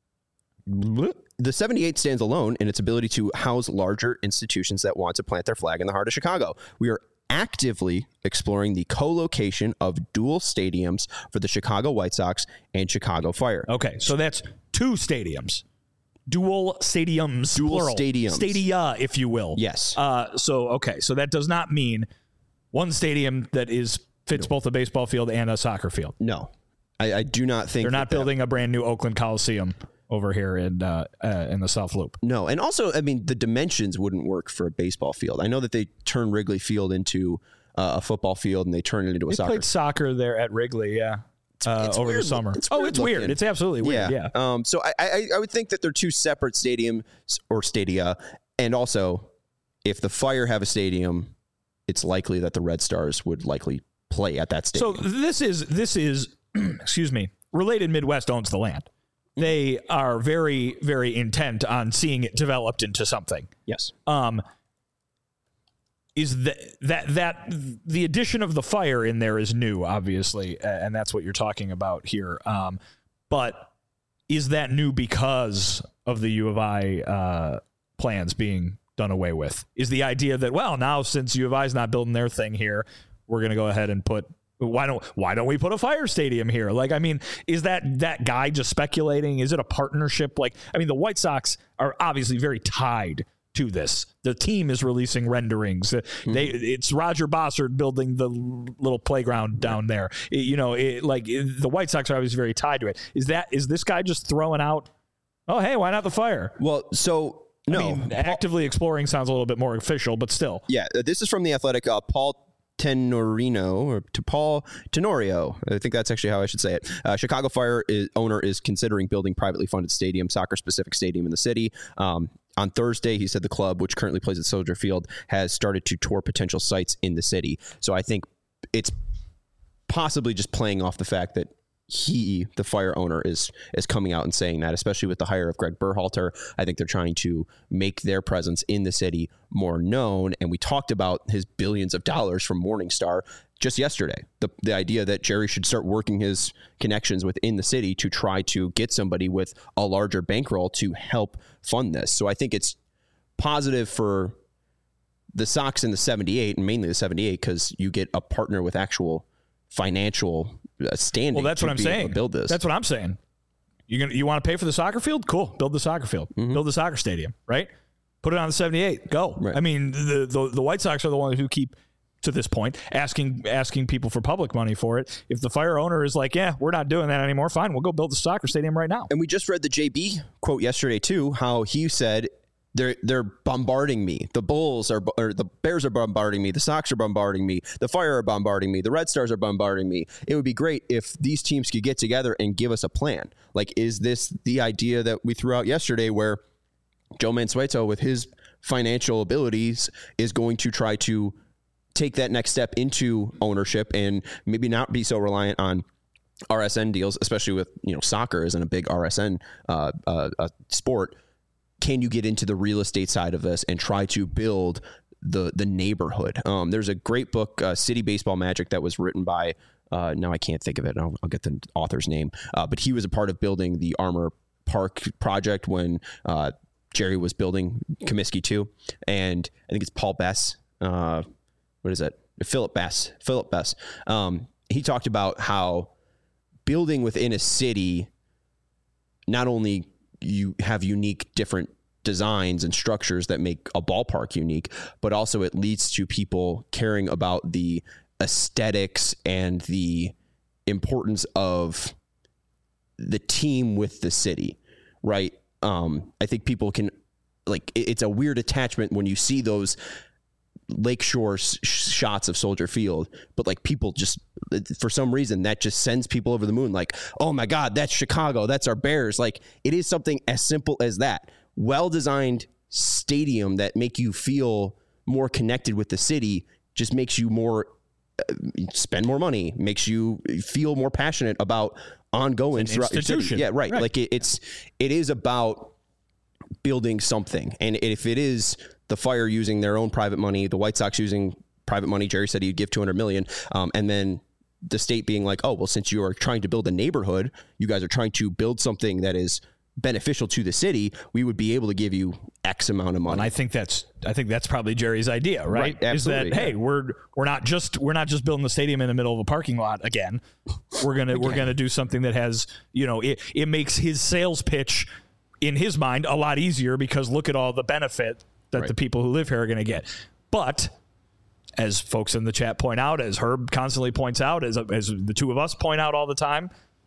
the seventy-eight stands alone in its ability to house larger institutions that want to plant their flag in the heart of Chicago. We are actively exploring the co-location of dual stadiums for the Chicago White Sox and Chicago Fire. Okay, so that's two stadiums. Dual stadiums. Dual plural. stadiums. Stadia, if you will. Yes. Uh, so, okay, so that does not mean one stadium that is fits both a baseball field and a soccer field. No. I, I do not think they're not that building that, a brand new Oakland Coliseum over here in uh, uh, in the South Loop. No, and also, I mean, the dimensions wouldn't work for a baseball field. I know that they turn Wrigley Field into uh, a football field and they turn it into a they soccer. Played soccer there at Wrigley, yeah, uh, it's over weird, the summer. It's oh, weird it's looking. weird. It's absolutely weird. Yeah. yeah. Um. So I, I I would think that they're two separate stadiums or stadia, and also if the Fire have a stadium, it's likely that the Red Stars would likely play at that stadium. So this is this is excuse me. Related Midwest owns the land. They are very, very intent on seeing it developed into something. Yes. Um, is that that that the addition of the Fire in there is new, obviously, and that's what you're talking about here. Um, but is that new because of the U of I uh, plans being done away with? Is the idea that, well, now since U of I is not building their thing here, we're going to go ahead and put Why don't why don't we put a Fire stadium here? Like, I mean, is that that guy just speculating? Is it a partnership? Like, I mean, the White Sox are obviously very tied to this. The team is releasing renderings. Mm-hmm. They it's Roger Bossard building the little playground down there. It, you know, it, like it, the White Sox are obviously very tied to it. Is that is this guy just throwing out? Oh, hey, why not the Fire? Well, so no, I mean, actively exploring sounds a little bit more official, but still. Yeah, this is from The Athletic. Uh, Paul Tenorino or to Paul Tenorio. I think that's actually how I should say it. Uh, Chicago Fire is, owner is considering building privately funded stadium, soccer specific stadium in the city. Um, on Thursday, he said the club, which currently plays at Soldier Field, has started to tour potential sites in the city. So I think it's possibly just playing off the fact that he, the Fire owner, is is coming out and saying that, especially with the hire of Greg Berhalter. I think they're trying to make their presence in the city more known. And we talked about his billions of dollars from Morningstar just yesterday. The the idea that Jerry should start working his connections within the city to try to get somebody with a larger bankroll to help fund this. So I think it's positive for the Sox in the seventy-eight, and mainly the seventy-eight, because you get a partner with actual financial standing. Well, that's what I'm saying. Build this. That's what I'm saying. You gonna you want to pay for the soccer field? Cool. Build the soccer field. Mm-hmm. Build the soccer stadium. Right. Put it on the seventy-eight. Go. Right. I mean, the, the the White Sox are the ones who keep, to this point, asking asking people for public money for it. If the Fire owner is like, yeah, we're not doing that anymore, fine, we'll go build the soccer stadium right now. And we just read the J B quote yesterday too, how he said, They're they're bombarding me. The Bulls are, or the Bears are bombarding me. The Sox are bombarding me. The Fire are bombarding me. The Red Stars are bombarding me. It would be great if these teams could get together and give us a plan. Like, is this the idea that we threw out yesterday, where Joe Mansueto, with his financial abilities, is going to try to take that next step into ownership and maybe not be so reliant on R S N deals, especially with, you know, soccer isn't a big R S N uh, uh, uh, sport. Can you get into the real estate side of this and try to build the the neighborhood? Um, there's a great book, uh, City Baseball Magic, that was written by, uh, now I can't think of it. I'll, I'll get the author's name. Uh, but he was a part of building the Armour Park project when uh, Jerry was building Comiskey two. And I think it's Paul Bess. Uh, what is it? Philip Bess. Philip Bess. Um, he talked about how building within a city, not only you have unique different designs and structures that make a ballpark unique, but also it leads to people caring about the aesthetics and the importance of the team with the city, right? Um, I think people can, like, it's a weird attachment when you see those lakeshore sh- shots of Soldier Field, but like people just, for some reason, that just sends people over the moon. Like, oh my God, that's Chicago. That's our Bears. Like, it is something as simple as that. Well-designed stadium that make you feel more connected with the city just makes you more, uh, spend more money, makes you feel more passionate about ongoing throughout your city. Yeah, right. right. Like it, it's, it is about building something. And if it is the Fire using their own private money, the White Sox using private money, Jerry said he'd give two hundred million dollars, um, and then the state being like, oh, well, since you are trying to build a neighborhood, you guys are trying to build something that is beneficial to the city, we would be able to give you X amount of money. And I think that's I think that's probably Jerry's idea, right? right Is that, yeah. hey, we're we're not just we're not just building the stadium in the middle of a parking lot again. We're gonna again. we're gonna do something that has, you know, it it makes his sales pitch in his mind a lot easier, because look at all the benefit that right. the people who live here are going to get. But as folks in the chat point out, as Herb constantly points out, as as the two of us point out all the time,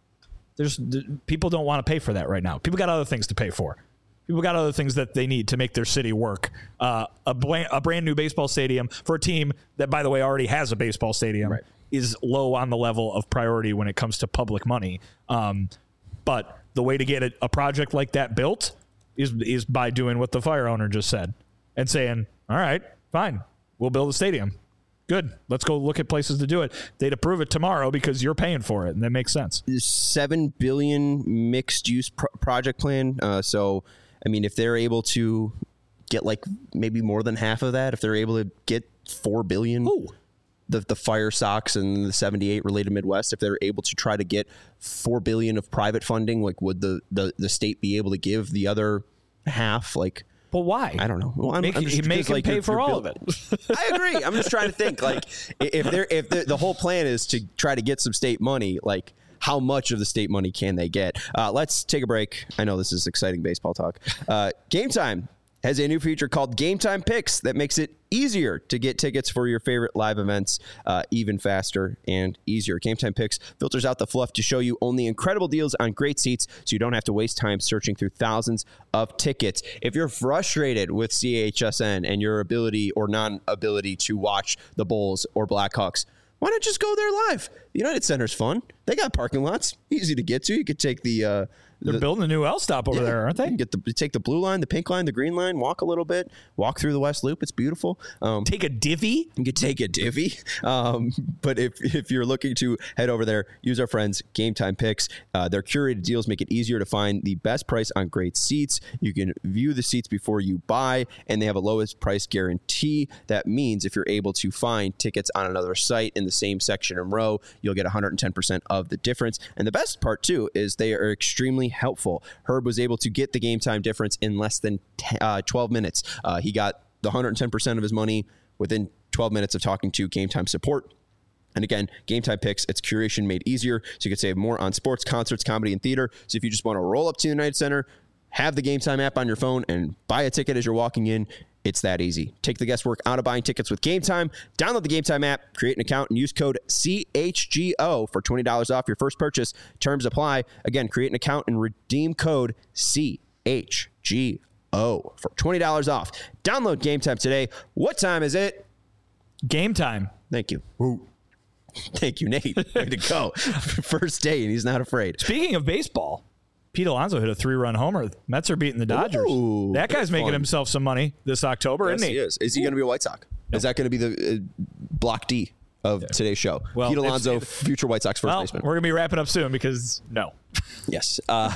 There's people don't want to pay for that right now. People got other things to pay for. People got other things that they need to make their city work. Uh, a, bland, a brand new baseball stadium for a team that, by the way, already has a baseball stadium right. is low on the level of priority when it comes to public money. Um, but the way to get a, a project like that built is is by doing what the fire owner just said and saying, all right, fine, we'll build a stadium. Good. Let's go look at places to do it. They'd approve it tomorrow because you're paying for it, and that makes sense. Seven billion mixed use pro- project plan. Uh, so, I mean, if they're able to get like maybe more than half of that, if they're able to get four billion, Ooh. the the Fire Sox and the seventy-eight related Midwest, if they're able to try to get four billion of private funding, like would the the, the state be able to give the other half? Like. Well, why? I don't know. Well, I'm, make I'm just, make him like, pay you're, for you're all build- of it. I agree. I'm just trying to think, like, if they're if they're, the whole plan is to try to get some state money, like, how much of the state money can they get? Uh, let's take a break. I know this is exciting baseball talk. Uh, Game Time has a new feature called Game Time Picks that makes it easier to get tickets for your favorite live events, uh, even faster and easier. Game Time Picks filters out the fluff to show you only incredible deals on great seats, so you don't have to waste time searching through thousands of tickets. If you're frustrated with C H S N and your ability or non-ability to watch the Bulls or Blackhawks, why not just go there live? The United Center's fun. They got parking lots, easy to get to. You could take the... Uh, They're the, building a new L stop over yeah, there, aren't they? You can get the take the blue line, the pink line, the green line, walk a little bit, walk through the West Loop. It's beautiful. Um, take a divvy. You could take a divvy. Um, but if if you're looking to head over there, use our friends Game Time Picks. Uh, their curated deals make it easier to find the best price on great seats. You can view the seats before you buy, and they have a lowest price guarantee. That means if you're able to find tickets on another site in the same section and row, you'll get one hundred ten percent of the difference. And the best part, too, is they are extremely helpful. Herb was able to get the game time difference in less than ten, uh, twelve minutes. Uh, he got the one hundred ten percent of his money within twelve minutes of talking to Game Time support. And again, Game Time Picks, it's curation made easier, so you can save more on sports, concerts, comedy, and theater. So if you just want to roll up to the United Center, have the Game Time app on your phone, and buy a ticket as you're walking in, it's that easy. Take the guesswork out of buying tickets with Game Time. Download the Game Time app, create an account, and use code C H G O for twenty dollars off your first purchase. Terms apply. Again, create an account and redeem code C H G O for twenty dollars off. Download Game Time today. What time is it? Game time. Thank you. Ooh. Thank you, Nate. Way to go. First day, and he's not afraid. Speaking of baseball, Pete Alonso hit a three-run homer. Mets are beating the Dodgers. Ooh, that guy's making fun. himself some money this October, yes, isn't he? he is. Is he going to be a White Sox? Nope. Is that going to be the uh, block D of yeah. today's show? Well, Pete Alonso, future White Sox first well, baseman. We're going to be wrapping up soon because no. Yes. Uh,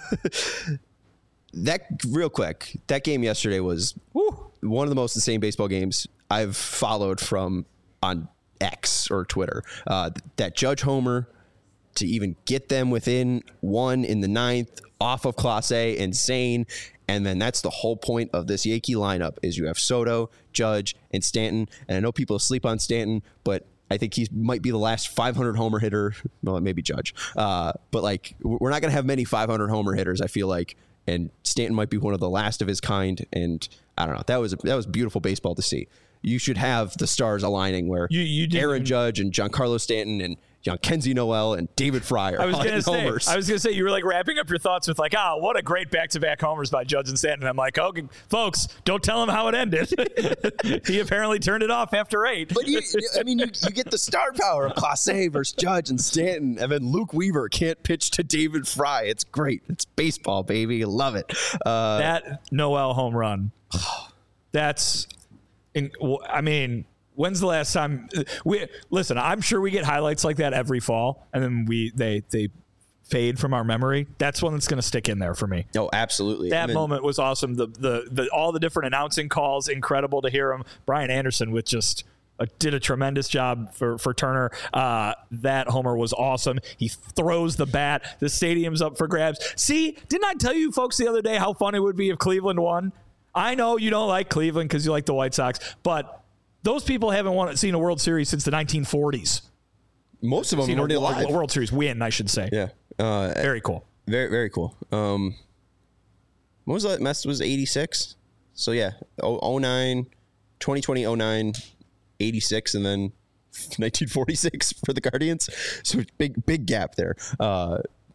that real quick, that game yesterday was Woo. one of the most insane baseball games I've followed from on X or Twitter. Uh, that Judge homer to even get them within one in the ninth off of Clase, insane. And then that's the whole point of this Yankee lineup is you have Soto, Judge, and Stanton. And I know people sleep on Stanton, but I think he might be the last five hundred homer hitter. Well, maybe Judge. Uh, but like, we're not going to have many five hundred homer hitters, I feel like. And Stanton might be one of the last of his kind. And I don't know. That was that was beautiful baseball to see. You should have the stars aligning where you, you Aaron Judge and Giancarlo Stanton and Kenzie Noel and David Fry are I was gonna say, homers. I was going to say, you were like wrapping up your thoughts with like, ah, oh, what a great back-to-back homers by Judge and Stanton. I'm like, okay, folks, don't tell him how it ended. He apparently turned it off after eight. But you, I mean, you, you get the star power of Clase versus Judge and Stanton, and then Luke Weaver can't pitch to David Fry. It's great. It's baseball, baby. I love it. Uh, that Noel home run, that's, in, I mean... When's the last time we listen? I'm sure we get highlights like that every fall, and then we they they fade from our memory. That's one that's going to stick in there for me. Oh, absolutely. That I mean, moment was awesome. The, the the all the different announcing calls, incredible to hear him. Brian Anderson with just uh, did a tremendous job for for Turner. Uh, that homer was awesome. He throws the bat. The stadium's up for grabs. See, didn't I tell you folks the other day how fun it would be if Cleveland won? I know you don't like Cleveland because you like the White Sox, but those people haven't won, seen a World Series since the nineteen forties. Most of them weren't alive. A World Series win, I should say. Yeah. Uh, very cool. Very, very cool. Um, what was that? Mess was eighty-six. So, yeah. oh nine, twenty twenty, oh nine, eighty-six, and then nineteen forty-six for the Guardians. So, big, big gap there. Uh,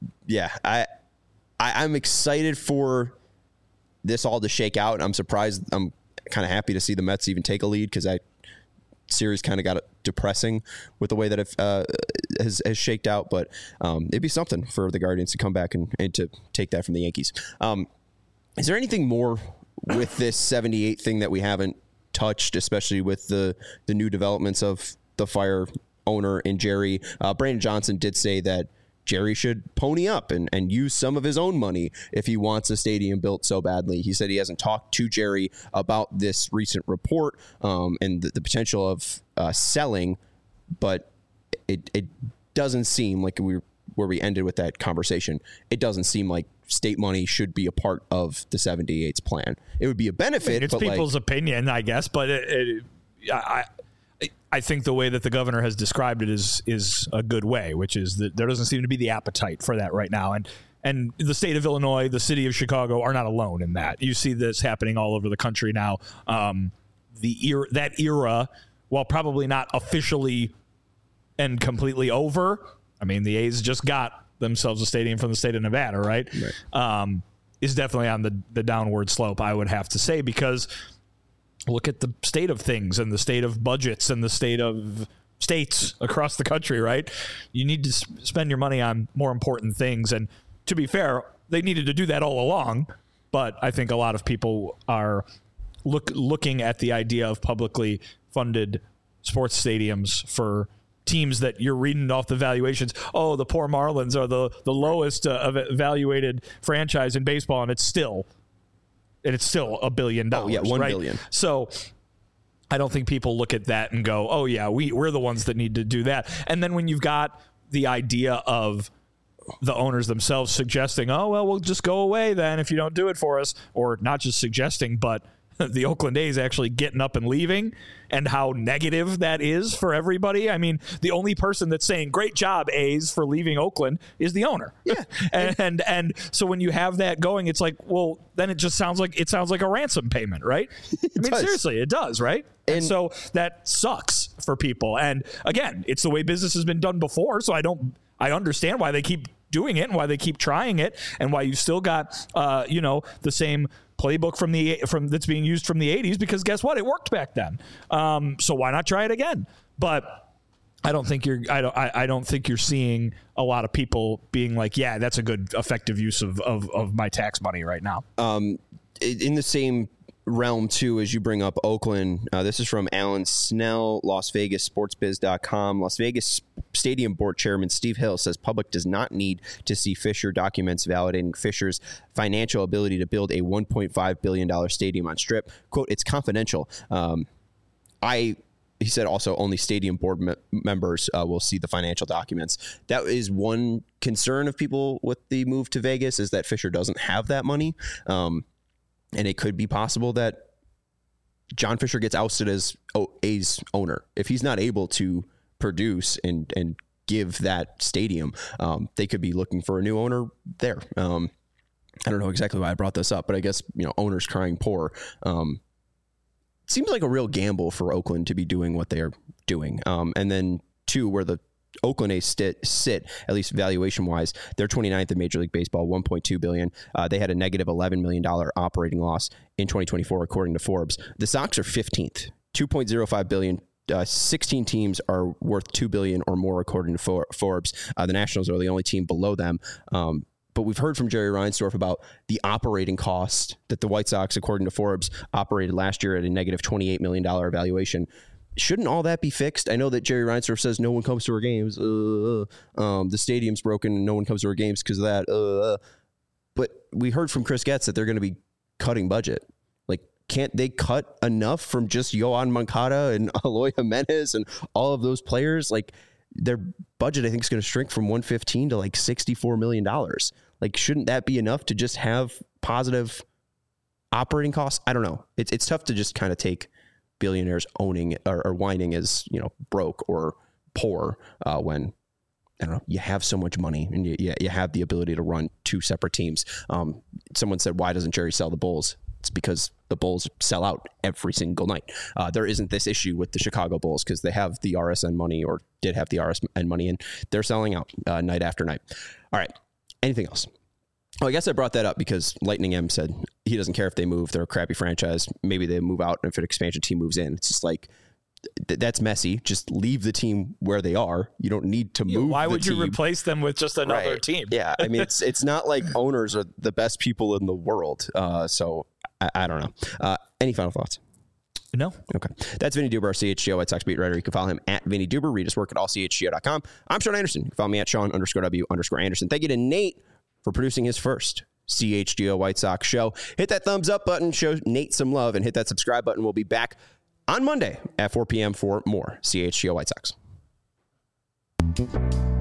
yeah, I, I I'm excited for this all to shake out. I'm surprised. I'm kind of happy to see the Mets even take a lead because that series kind of got depressing with the way that it uh, has, has shaked out. But um, it'd be something for the Guardians to come back and, and to take that from the Yankees. Um, is there anything more with this seventy-eight thing that we haven't touched, especially with the the new developments of the Fire owner and Jerry? Uh, Brandon Johnson did say that Jerry should pony up and, and use some of his own money if he wants a stadium built so badly. He said he hasn't talked to Jerry about this recent report um, and the, the potential of uh, selling, but it it doesn't seem like we where we ended with that conversation. It doesn't seem like state money should be a part of the seventy-eight's plan. It would be a benefit. I mean, it's but people's like, opinion, I guess, but it, it, I. I think the way that the governor has described it is is a good way, which is that there doesn't seem to be the appetite for that right now. And and the state of Illinois, the city of Chicago are not alone in that. You see this happening all over the country now. Um, the era, that era, while probably not officially and completely over, I mean, the A's just got themselves a stadium from the state of Nevada, right? right. Um, is definitely on the, the downward slope, I would have to say, because look at the state of things and the state of budgets and the state of states across the country, right? You need to spend your money on more important things. And to be fair, they needed to do that all along. But I think a lot of people are look looking at the idea of publicly funded sports stadiums for teams that you're reading off the valuations. Oh, the poor Marlins are the, the lowest uh, evaluated franchise in baseball, and it's still And it's still a billion dollars. Oh, yeah, one right? billion. So I don't think people look at that and go, oh, yeah, we, we're the ones that need to do that. And then when you've got the idea of the owners themselves suggesting, oh, well, we'll just go away then if you don't do it for us, or not just suggesting, but the Oakland A's actually getting up and leaving, and how negative that is for everybody. I mean, the only person that's saying great job, A's, for leaving Oakland is the owner. Yeah. and, and and so when you have that going, it's like, well, then it just sounds like it sounds like a ransom payment, right? I mean, does. seriously, it does, right? And, And so that sucks for people. And again, it's the way business has been done before, so I don't I understand why they keep doing it and why they keep trying it and why you've still got uh, you know, the same playbook from the from that's being used from the eighties, because guess what? It worked back then. Um, so why not try it again? But I don't think you're I don't I, I don't think you're seeing a lot of people being like, yeah, that's a good effective use of of, of my tax money right now. Um, in the same realm too, as you bring up Oakland, uh, this is from Alan Snell, Las Vegas Sports Biz dot com. Las Vegas Stadium Board Chairman Steve Hill says public does not need to see Fisher documents validating Fisher's financial ability to build a one point five billion dollars stadium on Strip. Quote, it's confidential. Um, I He said also only stadium board me- members uh, will see the financial documents. That is one concern of people with the move to Vegas, is that Fisher doesn't have that money. Um, And it could be possible that John Fisher gets ousted as A's owner. If he's not able to produce and, and give that stadium, um, they could be looking for a new owner there. Um, I don't know exactly why I brought this up, but I guess, you know, owners crying poor. Um, seems like a real gamble for Oakland to be doing what they're doing. Um, and then two, where the Oakland A's sit, sit, at least valuation-wise, they're twenty-ninth in Major League Baseball, one point two billion dollars. Uh, they had a negative eleven million dollars operating loss in twenty twenty-four, according to Forbes. The Sox are fifteenth, two point oh five billion dollars. Uh, sixteen teams are worth two billion dollars or more, according to For- Forbes. Uh, the Nationals are the only team below them. Um, but we've heard from Jerry Reinsdorf about the operating cost that the White Sox, according to Forbes, operated last year at a negative twenty-eight million dollars valuation. Shouldn't all that be fixed? I know that Jerry Reinsdorf says no one comes to our games. Uh, um, the stadium's broken and no one comes to our games because of that. Uh, but we heard from Chris Getz that they're going to be cutting budget. Like, can't they cut enough from just Yohan Moncada and Eloy Jimenez and all of those players? Like, their budget, I think, is going to shrink from one fifteen to like sixty-four million dollars. Like, shouldn't that be enough to just have positive operating costs? I don't know. It's it's tough to just kind of take billionaires owning or, or whining as, you know, broke or poor uh, when, I don't know, you have so much money and you, you, you have the ability to run two separate teams. Um, someone said, why doesn't Jerry sell the Bulls? It's because the Bulls sell out every single night. Uh, there isn't this issue with the Chicago Bulls because they have the R S N money, or did have the R S N money, and they're selling out uh, night after night. All right. anything else? Oh, I guess I brought that up because Lightning M said he doesn't care if they move. They're a crappy franchise. Maybe they move out if an expansion team moves in. It's just like, th- that's messy. Just leave the team where they are. You don't need to Yeah, move. why the would team. you replace them with just another Right. team? Yeah, I mean, it's it's not like owners are the best people in the world. Uh, so I, I don't know. Uh, any final thoughts? No. Okay. That's Vinny Duber, our C H G O White Sox beat writer. You can follow him at Vinny Duber. Read his work at all C H G O dot com. I'm Sean Anderson. You can follow me at Sean underscore W underscore Anderson. Thank you to Nate for producing his first C H G O White Sox show. Hit that thumbs up button, show Nate some love, and hit that subscribe button. We'll be back on Monday at four p.m. for more C H G O White Sox.